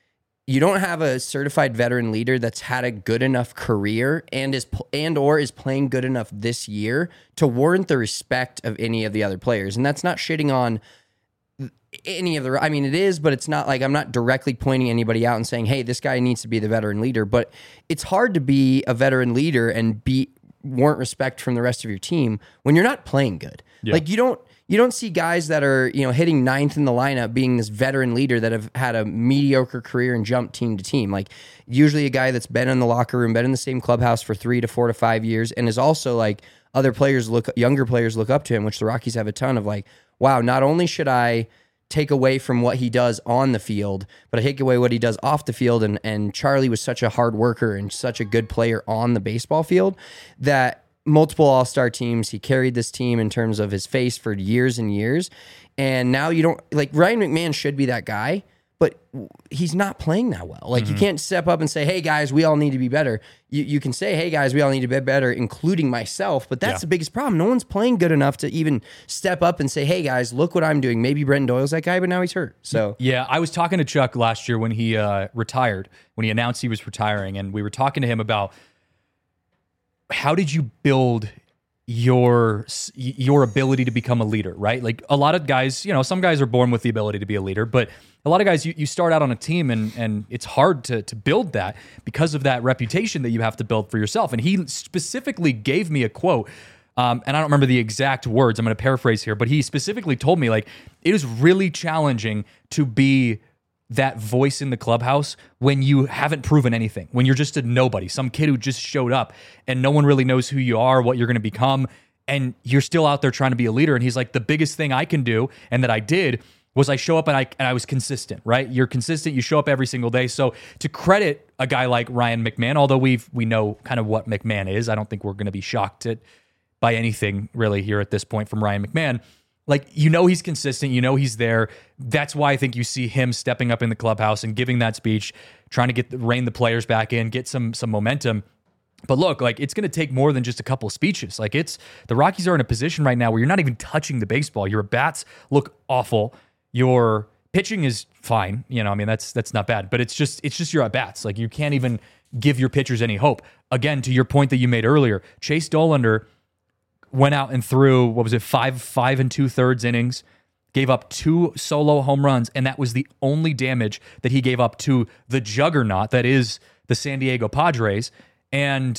you don't have a certified veteran leader that's had a good enough career and is and or is playing good enough this year to warrant the respect of any of the other players. And that's not shitting on any of the, I mean, it is, but it's not like I'm not directly pointing anybody out and saying, hey, this guy needs to be the veteran leader. But it's hard to be a veteran leader and be warrant respect from the rest of your team when you're not playing good. Yeah. Like you don't, You don't see guys that are, you know, hitting ninth in the lineup being this veteran leader that have had a mediocre career and jumped team to team. Like usually a guy that's been in the locker room, been in the same clubhouse for three to four to five years, and is also like other players look, younger players look up to him, which the Rockies have a ton of. Like, wow, not only should I take away from what he does on the field, but I take away what he does off the field. And and Charlie was such a hard worker and such a good player on the baseball field that multiple all-star teams. He carried this team in terms of his face for years and years. And now you don't, like, Ryan McMahon should be that guy, but he's not playing that well. Like, mm-hmm. you can't step up and say, hey, guys, we all need to be better. You you can say, hey, guys, we all need to be better, including myself, but that's yeah. the biggest problem. No one's playing good enough to even step up and say, hey, guys, look what I'm doing. Maybe Brenton Doyle's that guy, but now he's hurt. So yeah, I was talking to Chuck last year when he uh, retired, when he announced he was retiring, and we were talking to him about how did you build your your ability to become a leader, right? Like a lot of guys, you know, some guys are born with the ability to be a leader, but a lot of guys, you, you start out on a team and and it's hard to to build that because of that reputation that you have to build for yourself. And he specifically gave me a quote, um, and I don't remember the exact words, I'm going to paraphrase here, but he specifically told me, like, it is really challenging to be that voice in the clubhouse when you haven't proven anything, when you're just a nobody, some kid who just showed up and no one really knows who you are, what you're going to become, and you're still out there trying to be a leader. And he's like, the biggest thing I can do, and that I did, was I show up and I and I was consistent, right? You're consistent, you show up every single day. So to credit a guy like Ryan McMahon, although we've we know kind of what McMahon is, I don't think we're going to be shocked at, by anything really here at this point from Ryan McMahon. Like, you know, he's consistent, you know, he's there. That's why I think you see him stepping up in the clubhouse and giving that speech, trying to get rein the players back in, get some some momentum. But look, like, it's going to take more than just a couple of speeches. Like, it's the Rockies are in a position right now where you're not even touching the baseball. Your bats look awful. Your pitching is fine. You know, I mean, that's that's not bad. But it's just it's just your at bats. Like, you can't even give your pitchers any hope. Again, to your point that you made earlier, Chase Dollander went out and threw, what was it, five, five and two thirds innings, gave up two solo home runs, and that was the only damage that he gave up to the juggernaut that is the San Diego Padres. And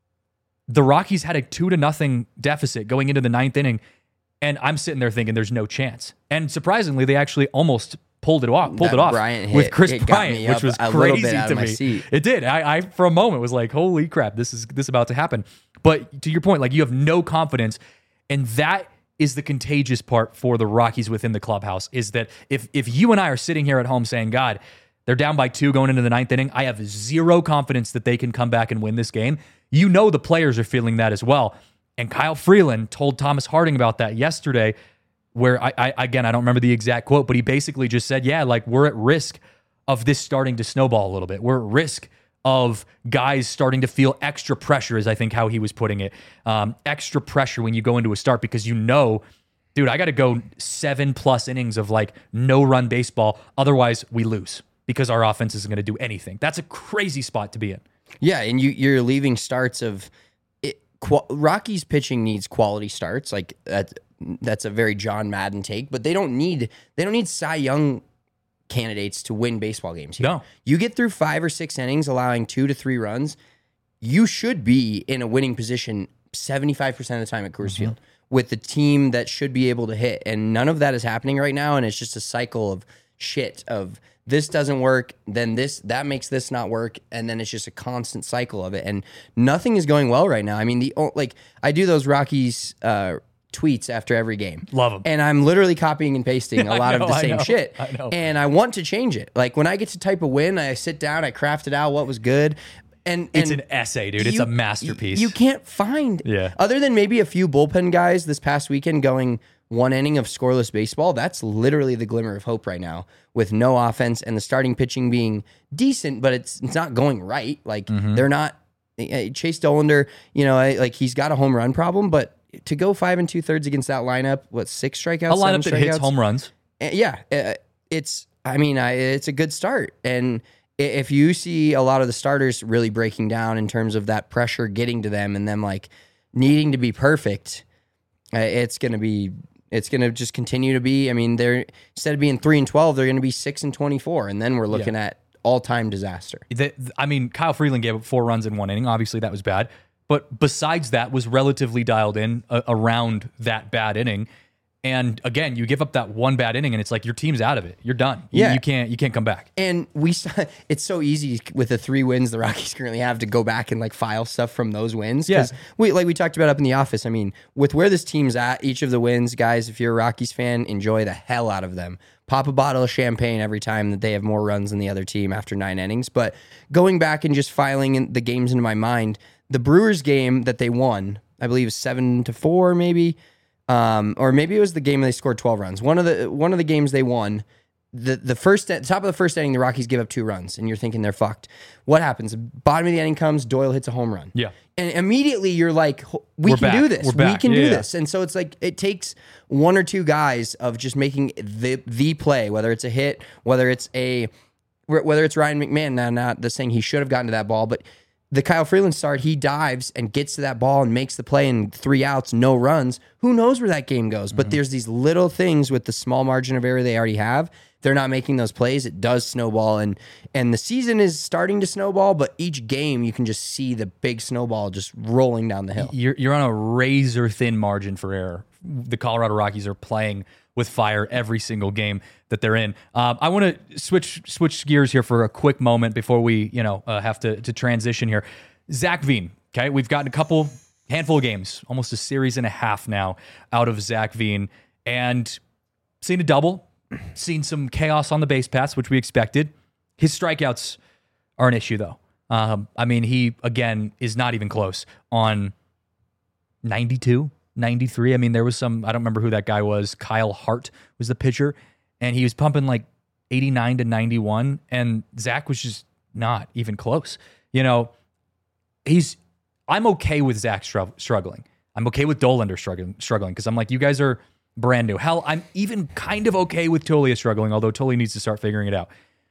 the Rockies had a two to nothing deficit going into the ninth inning, and I'm sitting there thinking there's no chance. And surprisingly, they actually almost pulled it off, pulled that it off Bryant hit, with Chris Bryant, which was crazy to me. Seat. It did. I, I for a moment was like, holy crap, this is this is about to happen. But to your point, like, you have no confidence, and that is the contagious part for the Rockies within the clubhouse, is that if if you and I are sitting here at home saying, God, they're down by two going into the ninth inning, I have zero confidence that they can come back and win this game. You know the players are feeling that as well. And Kyle Freeland told Thomas Harding about that yesterday, where I, I again, I don't remember the exact quote, but he basically just said, yeah, like, we're at risk of this starting to snowball a little bit. We're at risk of guys starting to feel extra pressure, is I think how he was putting it. Um, extra pressure when you go into a start, because you know, dude, I got to go seven plus innings of like no run baseball. Otherwise we lose because our offense isn't going to do anything. That's a crazy spot to be in. Yeah. And you, you're leaving starts of it. Qu- Rockies pitching needs quality starts. Like that, that's a very John Madden take, but they don't need, they don't need Cy Young candidates to win baseball games here. No. You get through five or six innings allowing two to three runs, you should be in a winning position seventy-five percent of the time at Coors mm-hmm. Field with the team that should be able to hit. And none of that is happening right now, and it's just a cycle of shit of this doesn't work, then this, that makes this not work, and then it's just a constant cycle of it. And nothing is going well right now. I mean, the like I do those Rockies uh tweets after every game. Love them. And I'm literally copying and pasting a lot know, of the same I shit. I know. And I want to change it. Like when I get to type a win, I sit down, I craft it out what was good. And, and it's an essay, dude. You, it's a masterpiece. You can't find, yeah. other than maybe a few bullpen guys this past weekend going one inning of scoreless baseball, that's literally the glimmer of hope right now with no offense and the starting pitching being decent, but it's it's not going right. Like mm-hmm. they're not, Chase Dollander, you know, like he's got a home run problem, but to go five and two thirds against that lineup, what, six strikeouts? A lineup that strikeouts? hits home runs. Yeah, it's. I mean, I, it's a good start, and if you see a lot of the starters really breaking down in terms of that pressure getting to them and them like needing to be perfect, uh, it's going to be it's going to just continue to be. I mean, they're instead of being three and twelve, they're going to be six and twenty-four, and then we're looking yeah. at all-time disaster. The, I mean, Kyle Freeland gave up four runs in one inning. Obviously, that was bad. But besides that, was relatively dialed in uh, around that bad inning. And again, you give up that one bad inning, and it's like your team's out of it. You're done. You, yeah. you can't you can't come back. And we, it's so easy with the three wins the Rockies currently have to go back and like file stuff from those wins. Yeah. We like we talked about up in the office. I mean, with where this team's at, each of the wins, guys, if you're a Rockies fan, enjoy the hell out of them. Pop a bottle of champagne every time that they have more runs than the other team after nine innings. But going back and just filing in the games into my mind, the Brewers game that they won, I believe, is seven to four, maybe. Um, or maybe it was the game they scored twelve runs. One of the one of the games they won, the the first top of the first inning, the Rockies give up two runs, and you're thinking they're fucked. What happens? Bottom of the inning comes, Doyle hits a home run. Yeah, and immediately you're like, we We're can back. do this. We're back. We can yeah, do yeah. this. And so it's like it takes one or two guys of just making the the play, whether it's a hit, whether it's a whether it's Ryan McMahon. Now, not the saying he should have gotten to that ball, but the Kyle Freeland start, he dives and gets to that ball and makes the play and three outs, no runs. Who knows where that game goes? But mm-hmm. there's these little things with the small margin of error they already have. They're not making those plays. It does snowball. And and the season is starting to snowball, but each game you can just see the big snowball just rolling down the hill. You're, you're on a razor thin margin for error. The Colorado Rockies are playing with fire every single game that they're in. Um, I want to switch switch gears here for a quick moment before we, you know, uh, have to to transition here. Zach Veen. Okay, we've gotten a couple handful of games, almost a series and a half now out of Zach Veen, and seen a double, seen some chaos on the base paths, which we expected. His strikeouts are an issue, though. Um, I mean, he again is not even close on ninety-two. ninety-three. I mean, there was some, I don't remember who that guy was. Kyle Hart was the pitcher, and he was pumping like eighty-nine to ninety-one, and Zach was just not even close. You know, he's, I'm okay with Zach str- struggling. I'm okay with Dollander struggling, struggling because I'm like, you guys are brand new. Hell, I'm even kind of okay with Tolia struggling, although Tolia needs to start figuring it out.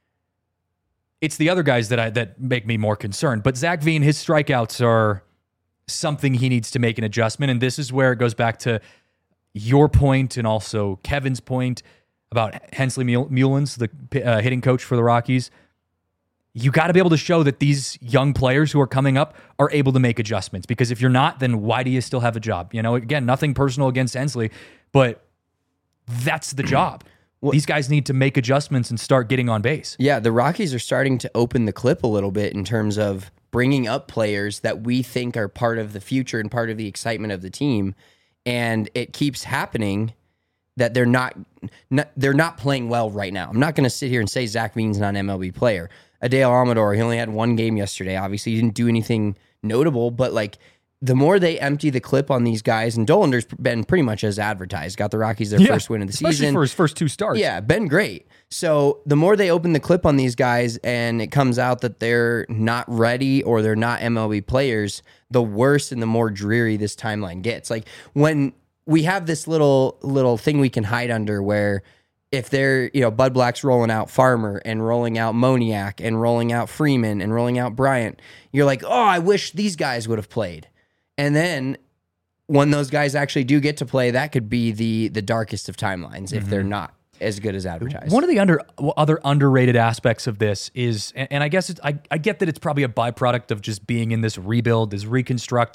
It's the other guys that I that make me more concerned. But Zach Veen, his strikeouts are something he needs to make an adjustment. And this is where it goes back to your point and also Kevin's point about Hensley Mullins, the uh, hitting coach for the Rockies. You got to be able to show that these young players who are coming up are able to make adjustments. Because if you're not, then why do you still have a job? You know, again, nothing personal against Hensley, but that's the job. Well, these guys need to make adjustments and start getting on base. Yeah, the Rockies are starting to open the clip a little bit in terms of bringing up players that we think are part of the future and part of the excitement of the team, and it keeps happening that they're not, not they're not playing well right now. I'm not going to sit here and say Zach Veen's not an M L B player. Adael Amador, he only had one game yesterday. Obviously, he didn't do anything notable, but like the more they empty the clip on these guys, and Dollander's been pretty much as advertised, got the Rockies their yeah, first win of the especially season. Especially for his first two starts. Yeah, been great. So the more they open the clip on these guys and it comes out that they're not ready or they're not M L B players, the worse and the more dreary this timeline gets. Like when we have this little little thing we can hide under where if they're, you know, Bud Black's rolling out Farmer and rolling out Moniak and rolling out Freeman and rolling out Bryant, you're like, oh, I wish these guys would have played. And then when those guys actually do get to play, that could be the the darkest of timelines mm-hmm. if they're not as good as advertised. One of the under other underrated aspects of this is, and, and I guess it's, I, I get that it's probably a byproduct of just being in this rebuild, this reconstruct.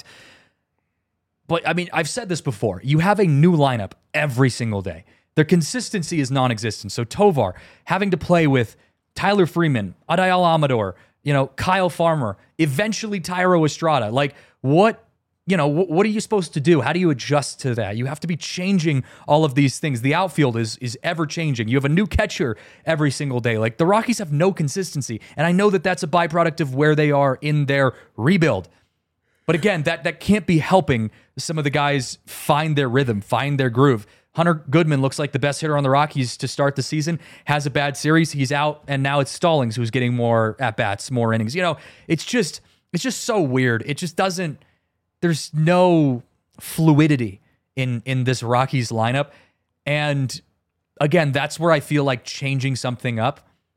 But I mean, I've said this before. You have a new lineup every single day. Their consistency is non-existent. So Tovar having to play with Tyler Freeman, Adael Amador, you know, Kyle Farmer, eventually Tyro Estrada. Like what? You know, what are you supposed to do? How do you adjust to that? You have to be changing all of these things. The outfield is is ever changing. You have a new catcher every single day. Like the Rockies have no consistency. And I know that that's a byproduct of where they are in their rebuild. But again, that that can't be helping some of the guys find their rhythm, find their groove. Hunter Goodman looks like the best hitter on the Rockies to start the season, has a bad series. He's out, and now it's Stallings who's getting more at-bats, more innings. You know, it's just it's just so weird. It just doesn't... There's no fluidity in, in this Rockies lineup. And again, that's where I feel like changing something up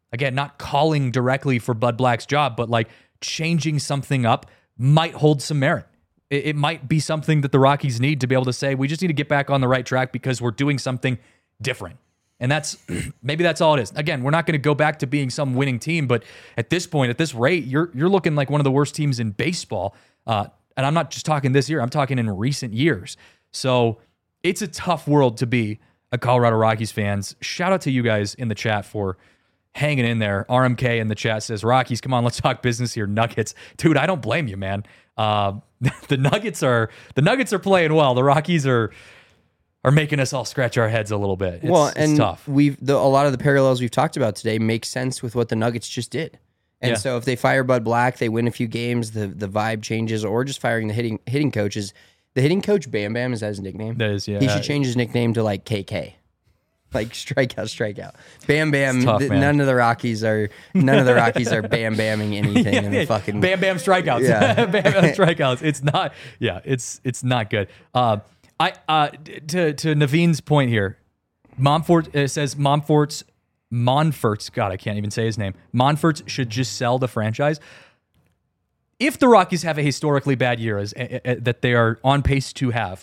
again, not calling directly for Bud Black's job, but like changing something up might hold some merit. It, it might be something that the Rockies need to be able to say, we just need to get back on the right track because we're doing something different. And that's maybe that's all it is. Again, we're not going to go back to being some winning team, but at this point, at this rate, you're you're looking like one of the worst teams in baseball. Uh, and I'm not just talking this year; I'm talking in recent years. So it's a tough world to be a Colorado Rockies fans. Shout out to you guys in the chat for hanging in there. R M K in the chat says, "Rockies, come on, let's talk business here." Nuggets, dude, I don't blame you, man. Uh, the Nuggets are the Nuggets are playing well. The Rockies are. are making us all scratch our heads a little bit. It's, well, and it's tough. We've the, a lot of the parallels we've talked about today make sense with what the Nuggets just did. And Yeah. so if they fire Bud Black, they win a few games, the the vibe changes, or just firing the hitting hitting coaches. The hitting coach Bam Bam, is that his nickname? That is, yeah. He should change his nickname to like K K. Like strikeout, strikeout. Bam Bam. tough, th- man. none of the Rockies are none of the Rockies are Bam Bamming anything in the fucking Bam Bam strikeouts. Yeah. Bam Bam strikeouts. It's not. Yeah, it's it's not good. Uh, I uh, to to Naveen's point here. Monfort it says Monfort's Monfort's God, I can't even say his name. Monfort's should just sell the franchise. If the Rockies have a historically bad year as uh, uh, that they are on pace to have,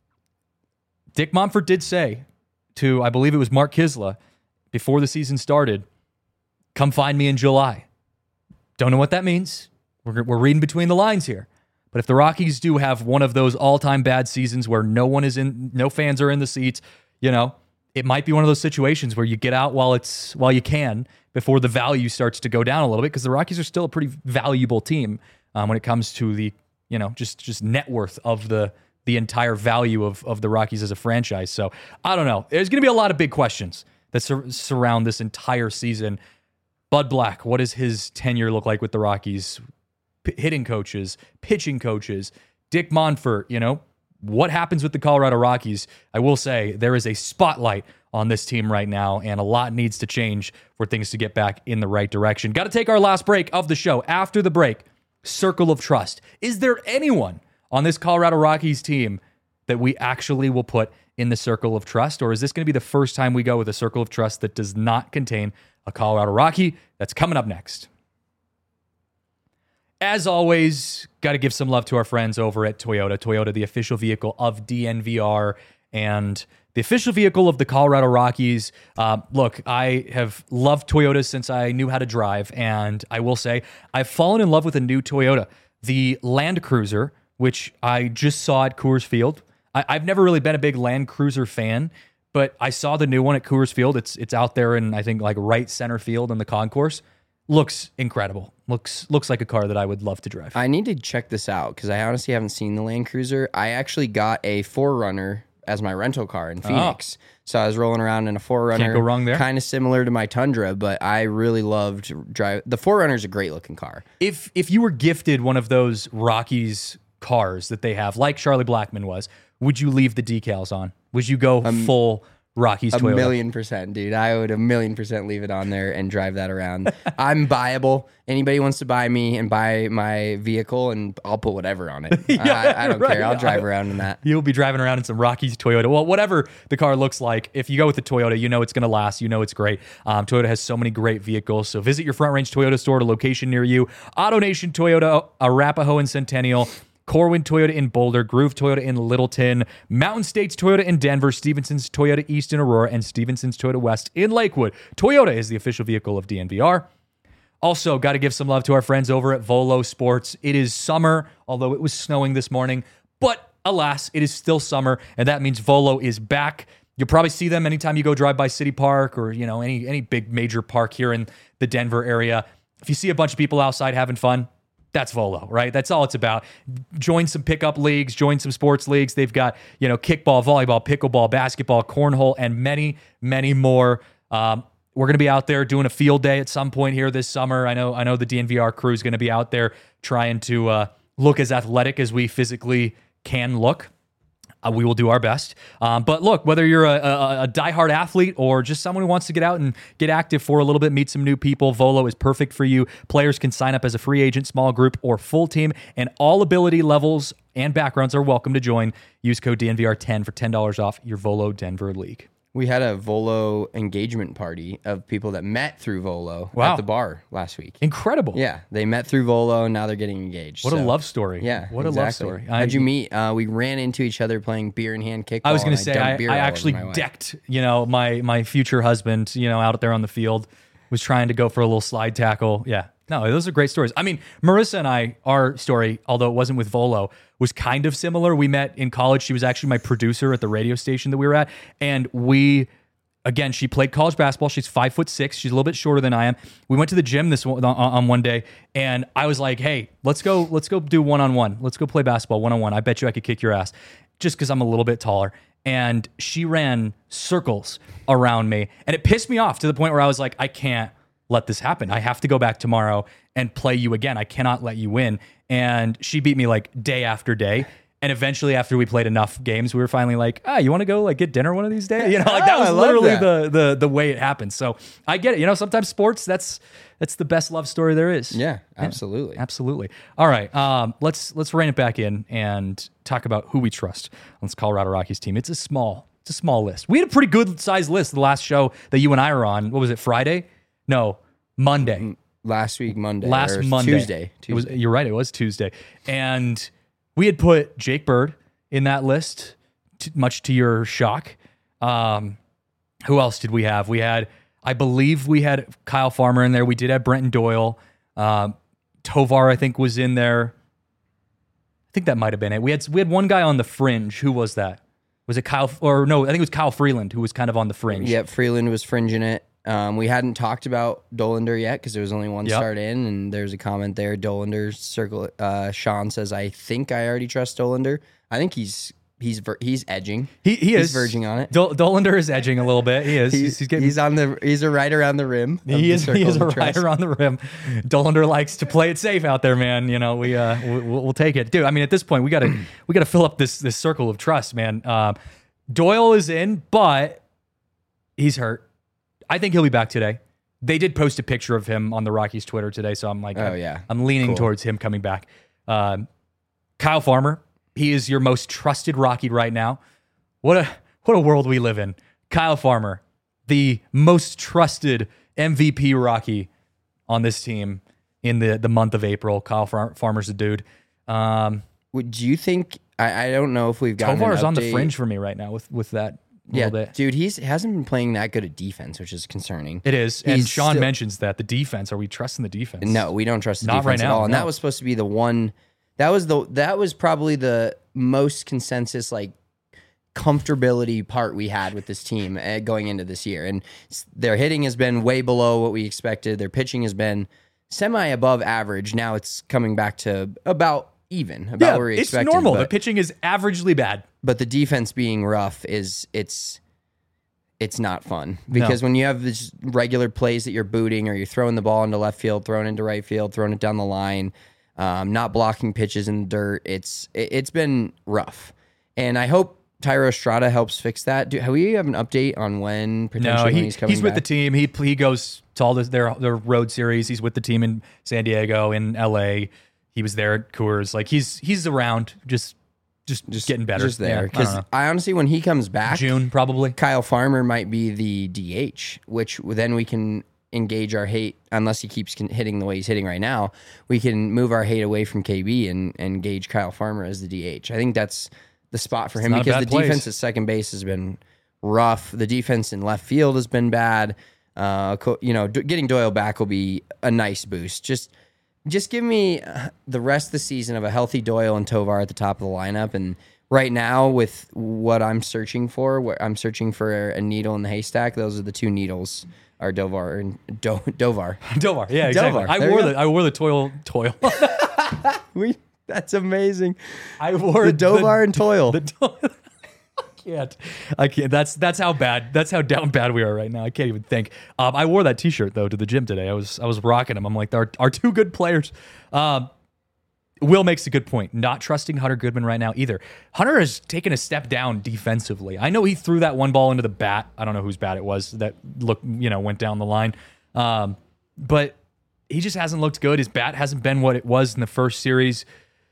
Dick Monfort did say to, I believe it was Mark Kisla, before the season started, come find me in July. Don't know what that means. We're, we're reading between the lines here. But if the Rockies do have one of those all-time bad seasons where no one is in, no fans are in the seats, you know, it might be one of those situations where you get out while it's while you can before the value starts to go down a little bit, because the Rockies are still a pretty valuable team um, when it comes to the, you know, just just net worth of the the entire value of of the Rockies as a franchise. So I don't know. There's going to be a lot of big questions that sur- surround this entire season. Bud Black, what does his tenure look like with the Rockies? P- hitting coaches, pitching coaches, Dick Monfort, you know, what happens with the Colorado Rockies? I will say there is a spotlight on this team right now, and a lot needs to change for things to get back in the right direction. Got to take our last break of the show. After the break, Circle of Trust. Is there anyone on this Colorado Rockies team that we actually will put in the Circle of Trust, or is this going to be the first time we go with a Circle of Trust that does not contain a Colorado Rocky? That's coming up next. As always, got to give some love to our friends over at Toyota. Toyota, the official vehicle of D N V R and the official vehicle of the Colorado Rockies. Uh, look, I have loved Toyotas since I knew how to drive, and I will say I've fallen in love with a new Toyota. The Land Cruiser, which I just saw at Coors Field. I, I've never really been a big Land Cruiser fan, but I saw the new one at Coors Field. It's it's out there in, I think, like right center field in the concourse. Looks incredible. Looks looks like a car that I would love to drive. I need to check this out because I honestly haven't seen the Land Cruiser. I actually got a four runner as my rental car in Phoenix. Oh. So I was rolling around in a four runner. Can't go wrong there. Kind of similar to my Tundra, but I really loved drive. The four runner is a great looking car. If if you were gifted one of those Rockies cars that they have, like Charlie Blackmon was, would you leave the decals on? Would you go um, full Rockies a Toyota? A million percent, dude. I would a million percent leave it on there and drive that around. I'm buyable. Anybody wants to buy me and buy my vehicle, and I'll put whatever on it. yeah, I, I don't right. care. I'll drive around in that. You'll be driving around in some Rockies Toyota. Well, whatever the car looks like, if you go with the Toyota, you know it's going to last. You know it's great. Um, Toyota has so many great vehicles. So visit your Front Range Toyota store at a location near you. AutoNation Toyota, Arapahoe and Centennial. Corwin Toyota in Boulder, Groove Toyota in Littleton, Mountain States Toyota in Denver, Stevenson's Toyota East in Aurora, and Stevenson's Toyota West in Lakewood. Toyota is the official vehicle of D N V R. Also, got to give some love to our friends over at Volo Sports. It is summer, although it was snowing this morning, but alas, it is still summer, and that means Volo is back. You'll probably see them anytime you go drive by City Park or, you know, any any big major park here in the Denver area. If you see a bunch of people outside having fun, that's Volo, right? That's all it's about. Join some pickup leagues, join some sports leagues. They've got, you know, kickball, volleyball, pickleball, basketball, cornhole, and many, many more. Um, we're going to be out there doing a field day at some point here this summer. I know I know the D N V R crew is going to be out there trying to uh, look as athletic as we physically can look. Uh, we will do our best. Um, but look, whether you're a, a, a diehard athlete or just someone who wants to get out and get active for a little bit, meet some new people, Volo is perfect for you. Players can sign up as a free agent, small group, or full team, and all ability levels and backgrounds are welcome to join. Use code D N V R ten for ten dollars off your Volo Denver League. We had a Volo engagement party of people that met through Volo Wow. at the bar last week. Incredible. Yeah, they met through Volo and now they're getting engaged. What so. a love story. Yeah, What exactly. a love story. How'd you meet? Uh, we ran into each other playing beer in hand kickball. I was going to and say, dumped I, beer I all over actually my wife. decked, you know, my my future husband, you know, out there on the field, was trying to go for a little slide tackle. Yeah. No, those are great stories. I mean, Marissa and I, our story, although it wasn't with Volo, was kind of similar. We met in college. She was actually my producer at the radio station that we were at. And we, again, she played college basketball. She's five foot six. She's a little bit shorter than I am. We went to the gym this on, on one day, and I was like, hey, let's go, let's go do one-on-one. Let's go play basketball one-on-one. I bet you I could kick your ass just because I'm a little bit taller. And she ran circles around me. And it pissed me off to the point where I was like, I can't let this happen. I have to go back tomorrow and play you again. I cannot let you win. And she beat me like day after day. And eventually, after we played enough games, we were finally like, ah, you want to go like get dinner one of these days? You know, like that Oh, was I love literally that. the the the way it happened. So I get it. You know, sometimes sports, that's that's the best love story there is. Yeah, absolutely. Absolutely. All right. Um, let's let's rein it back in and talk about who we trust on this Colorado Rockies team. It's a small, it's a small list. We had a pretty good sized list the last show that you and I were on. What was it? Friday? No, Monday. Last week, Monday. Last or Monday. Tuesday. It was, Tuesday. you're right. It was Tuesday. And we had put Jake Bird in that list, t- much to your shock. Um, who else did we have? We had, I believe we had Kyle Farmer in there. We did have Brenton Doyle. Um, Tovar, I think, was in there. I think that might have been it. We had we had one guy on the fringe. Who was that? Was it Kyle? Or no, I think it was Kyle Freeland who was kind of on the fringe. Yep, Freeland was fringing it. Um, we hadn't talked about Dolander yet because there was only one Yep. start in, and there's a comment there. Dolander circle. Uh, Sean says, "I think I already trust Dolander. I think he's he's ver- he's edging. He he He's is verging on it. Dol- Dolander is edging a little bit. He is. He's, he's getting. he's on the he's a right around the rim. of He the is, he circle is of a trust. rider on the rim. Dolander likes to play it safe out there, man. You know, we uh, we'll, we'll take it, dude. I mean, at this point, we gotta we gotta fill up this this circle of trust, man. Um, Doyle is in, but he's hurt. I think he'll be back today. They did post a picture of him on the Rockies Twitter today, so I'm like, Oh, I'm, yeah. I'm leaning Cool. towards him coming back. Um, Kyle Farmer, he is your most trusted Rocky right now. What a what a world we live in. Kyle Farmer, the most trusted M V P Rocky on this team in the, the month of April. Kyle Far- Farmer's the dude. Um, Would you think? I, I don't know if we've gotten Tovar's an on the update. fringe for me right now with with that Yeah, little bit. dude, he's hasn't been playing that good at defense, which is concerning. It is. And He's Sean still- mentions that the defense. Are we trusting the defense? No, we don't trust the Not defense right at now, all. And no. that was supposed to be the one. That was the that was probably the most consensus like comfortability part we had with this team uh, going into this year. And s- their hitting has been way below what we expected. Their pitching has been semi above average. Now it's coming back to about even, about Yeah, where we it's expected. normal. But, The pitching is averagely bad. but the defense being rough is it's it's not fun because when you have this regular plays that you're booting or you're throwing the ball into left field, throwing it into right field, throwing it down the line, um, not blocking pitches in the dirt, it's it, it's been rough. And I hope Tyro Estrada helps fix that. Do have we have an update on when potentially No, when he, he's coming he's with the back? team. He he goes to all this, their their road series. He's with the team in San Diego, in L A. He was there at Coors. Like he's he's around, just just just getting better. Just Yeah, there I don't because know. I, honestly, when he comes back, June probably. Kyle Farmer might be the D H, which then we can engage our hate. Unless he keeps con- hitting the way he's hitting right now, we can move our hate away from K B and and engage Kyle Farmer as the D H. I think that's the spot for him not a because the bad place. defense at second base has been rough. The defense in left field has been bad. Uh, co- you know, d- getting Doyle back will be a nice boost. Just just give me uh, the rest of the season of a healthy Doyle and Tovar at the top of the lineup. And right now, with what I'm searching for, what I'm searching for a needle in the haystack. Those are the two needles: are Dovar and Do- Dovar. Dovar, yeah, exactly. Dovar, I there wore you the I wore the toil toil. We that's amazing. I wore The Dovar and Toil. The, toil. I can't. I can't. That's that's how bad. That's how down bad we are right now. I can't even think. Um, I wore that T-shirt though to the gym today. I was I was rocking them. I'm like, our our two good players. Um, Will makes a good point. Not trusting Hunter Goodman right now either. Hunter has taken a step down defensively. I know he threw that one ball into the bat. I don't know whose bat it was that looked, you know, went down the line. Um, but he just hasn't looked good. His bat hasn't been what it was in the first series.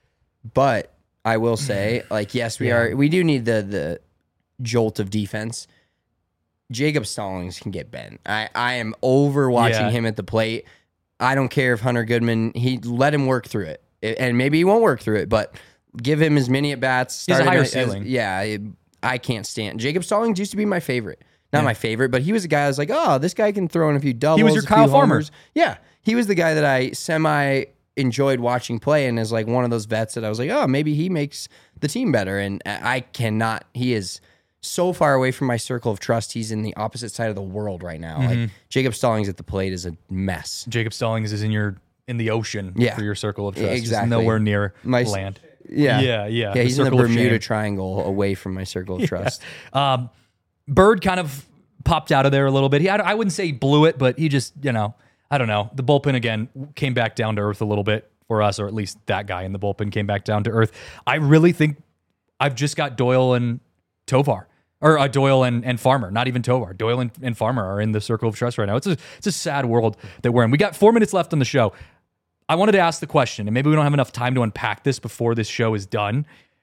But I will say, like, yes, we Yeah. are. We do need the the jolt of defense. Jacob Stallings can get bent. I, I am over watching Yeah. him at the plate. I don't care if Hunter Goodman, he let him work through it. It- and maybe he won't work through it, but give him as many at bats. He has a higher ceiling. Yeah, it- I can't stand. Jacob Stallings used to be my favorite. Not Yeah. my favorite, but he was a guy I was like, oh, this guy can throw in a few doubles. He was your a Kyle few Farmer. homers. Yeah, he was the guy that I semi enjoyed watching play, and is like one of those vets that I was like, oh, maybe he makes the team better. And I cannot. He is so far away from my circle of trust. He's in the opposite side of the world right now. Mm-hmm. Like Jacob Stallings at the plate is a mess. Jacob Stallings is in your in the ocean Yeah. for your circle of trust. He's Exactly. nowhere near My- land. Yeah, Yeah, yeah. yeah. He's in the circle of Bermuda shame. Triangle, away from my circle of trust. Um, Bird kind of popped out of there a little bit. He, I, I wouldn't say he blew it, but he just, you know, I don't know. The bullpen again came back down to earth a little bit for us, or at least that guy in the bullpen came back down to earth. I really think I've just got Doyle and Tovar, or uh, Doyle and, and Farmer, not even Tovar. Doyle and, and Farmer are in the circle of trust right now. It's a it's a sad world that we're in. We got four minutes left on the show. I wanted to ask the question, and maybe we don't have enough time to unpack this before this show is done.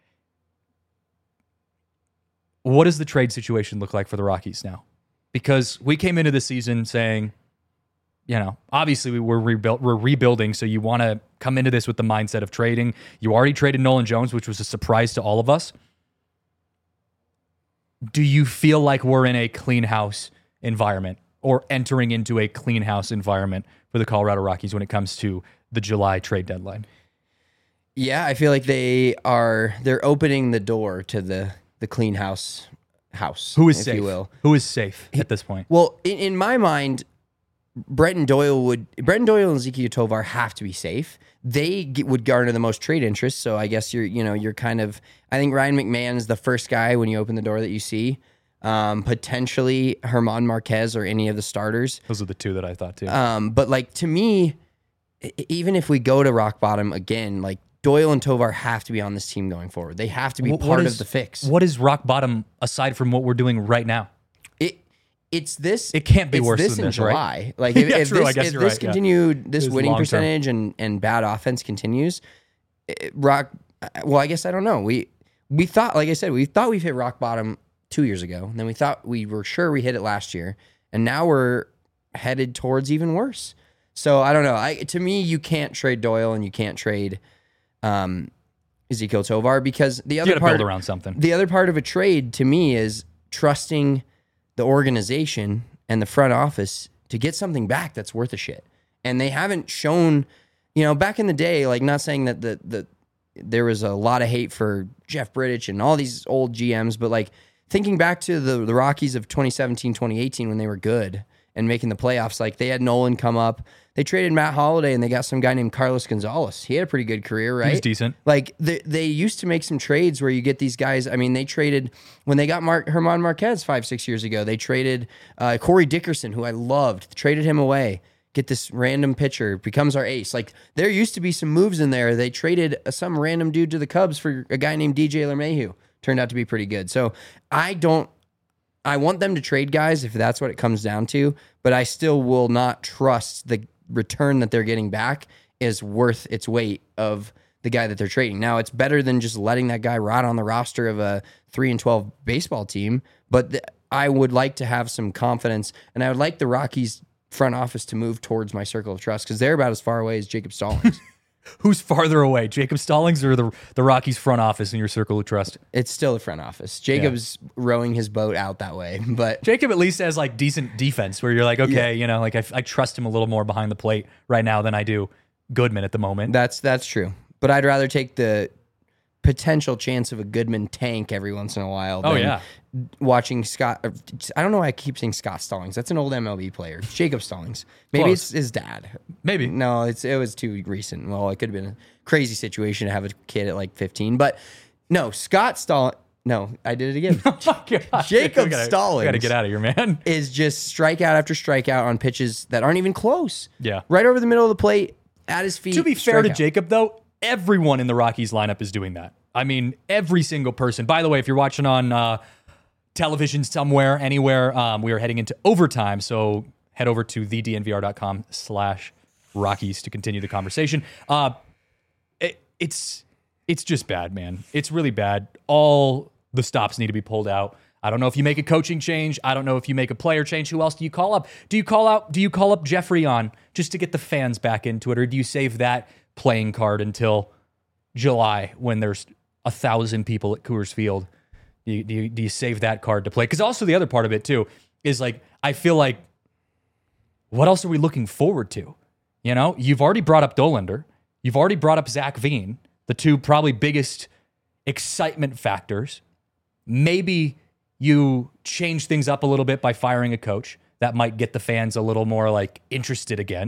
What does the trade situation look like for the Rockies now? Because we came into the season saying, you know, obviously we were rebuilt, we're rebuilding, so you want to come into this with the mindset of trading. You already traded Nolan Jones, which was a surprise to all of us. Do you feel like we're in a clean house environment, or entering into a clean house environment for the Colorado Rockies when it comes to the July trade deadline? Yeah, I feel like they are. They're opening the door to the the clean house house. Who is if safe? you will. Who is safe at this point? Well, in, in my mind, Brenton Doyle would Brenton Doyle and Ezekiel Tovar have to be safe. They get, would garner the most trade interest. So I guess you're you know you're kind of. I think Ryan McMahon is the first guy when you open the door that you see. Um, potentially Herman Marquez or any of the starters. Those are the two that I thought too. Um, but like to me, e- even if we go to rock bottom again, like Doyle and Tovar have to be on this team going forward. They have to be What- what part is- of the fix. What is rock bottom aside from what we're doing right now? It it's this. It can't be it's worse this than in this, right? July. Like if, Yeah, if true. this, I guess if you're this right, yeah. continued, this It is winning long-term. percentage and and bad offense continues, it, rock. Well, I guess I don't know. We we thought, like I said, we thought we've hit rock bottom two years ago, and then we thought we were sure we hit it last year, and now we're headed towards even worse. So I don't know. I to me, you can't trade Doyle and you can't trade um, Ezekiel Tovar because the You other got to part build around something. the other part of a trade to me is trusting the organization and the front office to get something back that's worth a shit. And they haven't shown, you know, back in the day, like not saying that the the there was a lot of hate for Jeff Bridich and all these old G Ms, but like thinking back to the, the Rockies of twenty seventeen, twenty eighteen when they were good and making the playoffs, like they had Nolan come up. They traded Matt Holliday and they got some guy named Carlos Gonzalez. He had a pretty good career, right? He was decent. Like they, they used to make some trades where you get these guys. I mean, they traded when they got Mark, Herman Marquez five, six years ago. They traded uh, Corey Dickerson, who I loved, traded him away. Get this random pitcher, becomes our ace. Like there used to be some moves in there. They traded uh, some random dude to the Cubs for a guy named D J LeMahieu. Turned out to be pretty good. So I don't. I want them to trade guys if that's what it comes down to, but I still will not trust the return that they're getting back is worth its weight of the guy that they're trading. Now, it's better than just letting that guy rot on the roster of a three and twelve baseball team, but th- I would like to have some confidence, and I would like the Rockies front office to move towards my circle of trust because they're about as far away as Jacob Stallings. Who's farther away, Jacob Stallings or the the Rockies front office in your circle of trust? It's still the front office. Jacob's rowing his boat out that way, but Jacob at least has like decent defense where you're like, okay, you know, like I, I trust him a little more behind the plate right now than I do Goodman at the moment. that's that's true. But I'd rather take the potential chance of a Goodman tank every once in a while. Oh, than yeah. watching Scott. I don't know why I keep saying Scott Stallings. That's an old M L B player. It's Jacob Stallings. Maybe Close. it's his dad. Maybe. No, it's it was too recent. Well, it could have been a crazy situation to have a kid at like fifteen. But no, Scott Stallings. No, I did it again. Oh my gosh. Jacob We gotta- Stallings. We got to get out of here, man. Is just strikeout after strikeout on pitches that aren't even close. Yeah. Right over the middle of the plate, at his feet. To be fair to strikeout. Jacob, though, everyone in the Rockies lineup is doing that. I mean, every single person. By the way, if you're watching on uh, television somewhere, anywhere, um, we are heading into overtime. So head over to the d n v r dot com slash Rockies to continue the conversation. Uh, it, it's it's just bad, man. It's really bad. All the stops need to be pulled out. I don't know if you make a coaching change. I don't know if you make a player change. Who else do you call up? Do you call out? Do you call up Jeffrey on just to get the fans back into it, or do you save that playing card until July when there's a thousand people at Coors Field? Do you, do you, do you save that card to play? Because also the other part of it too is like I feel like what else are we looking forward to? You know, you've already brought up Dollander. You've already brought up Zach Veen, the two probably biggest excitement factors. Maybe you change things up a little bit by firing a coach. That might get the fans a little more like interested again.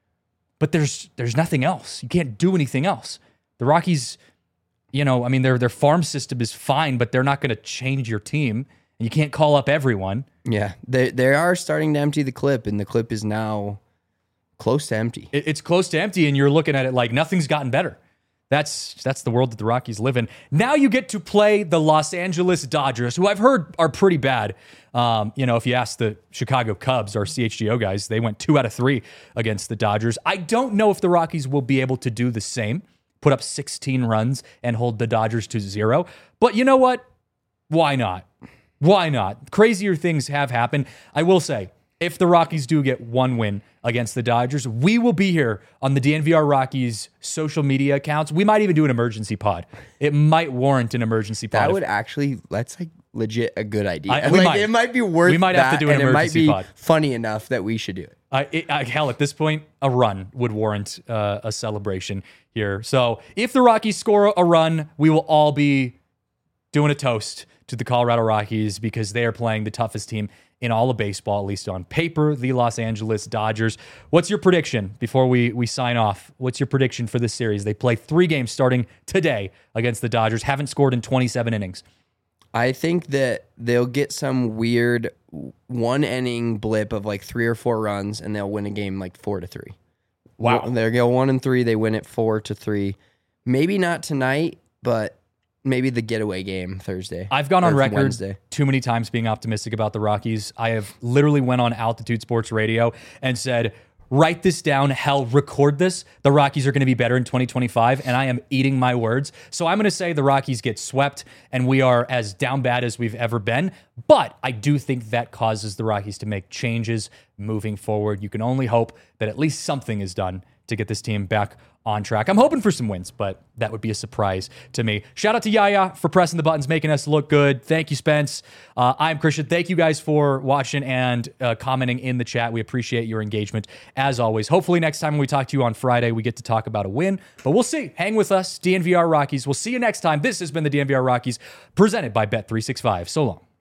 But there's there's nothing else. You can't do anything else. The Rockies, you know, I mean, their their farm system is fine, but they're not going to change your team. And you can't call up everyone. Yeah, they they are starting to empty the clip, and the clip is now close to empty. It, it's close to empty, and you're looking at it like nothing's gotten better. That's that's the world that the Rockies live in. Now you get to play the Los Angeles Dodgers, who I've heard are pretty bad. Um, you know, if you ask the Chicago Cubs, our C H G O guys, they went two out of three against the Dodgers. I don't know if the Rockies will be able to do the same, put up sixteen runs and hold the Dodgers to zero. But you know what? Why not? Why not? Crazier things have happened. I will say, if the Rockies do get one win against the Dodgers, we will be here on the D N V R Rockies social media accounts. We might even do an emergency pod. It might warrant an emergency pod. That if- would actually, that's like legit a good idea. I- we like, might. It might be worth We might have to that, do an and emergency it might pod. be funny enough that we should do it. I, it, I, hell, at this point, a run would warrant uh, a celebration here. So if the Rockies score a run, we will all be doing a toast to the Colorado Rockies because they are playing the toughest team in all of baseball, at least on paper, the Los Angeles Dodgers. What's your prediction before we, we sign off? What's your prediction for this series? They play three games starting today against the Dodgers, haven't scored in twenty-seven innings. I think that they'll get some weird one inning blip of like three or four runs, and they'll win a game like four to three. Wow. They'll go one and three. They win it four to three. Maybe not tonight, but maybe the getaway game Thursday. I've gone on or record Wednesday. too many times being optimistic about the Rockies. I have literally went on Altitude Sports Radio and said, write this down, hell, record this. The Rockies are going to be better in twenty twenty-five, and I am eating my words. So I'm going to say the Rockies get swept, and we are as down bad as we've ever been. But I do think that causes the Rockies to make changes moving forward. You can only hope that at least something is done to get this team back on track. I'm hoping for some wins, but that would be a surprise to me. Shout out to Yaya for pressing the buttons, making us look good. Thank you, Spence. Uh, I'm Christian. Thank you guys for watching and uh, commenting in the chat. We appreciate your engagement as always. Hopefully next time when we talk to you on Friday, we get to talk about a win, but we'll see. Hang with us, D N V R Rockies. We'll see you next time. This has been the D N V R Rockies presented by Bet three sixty-five. So long.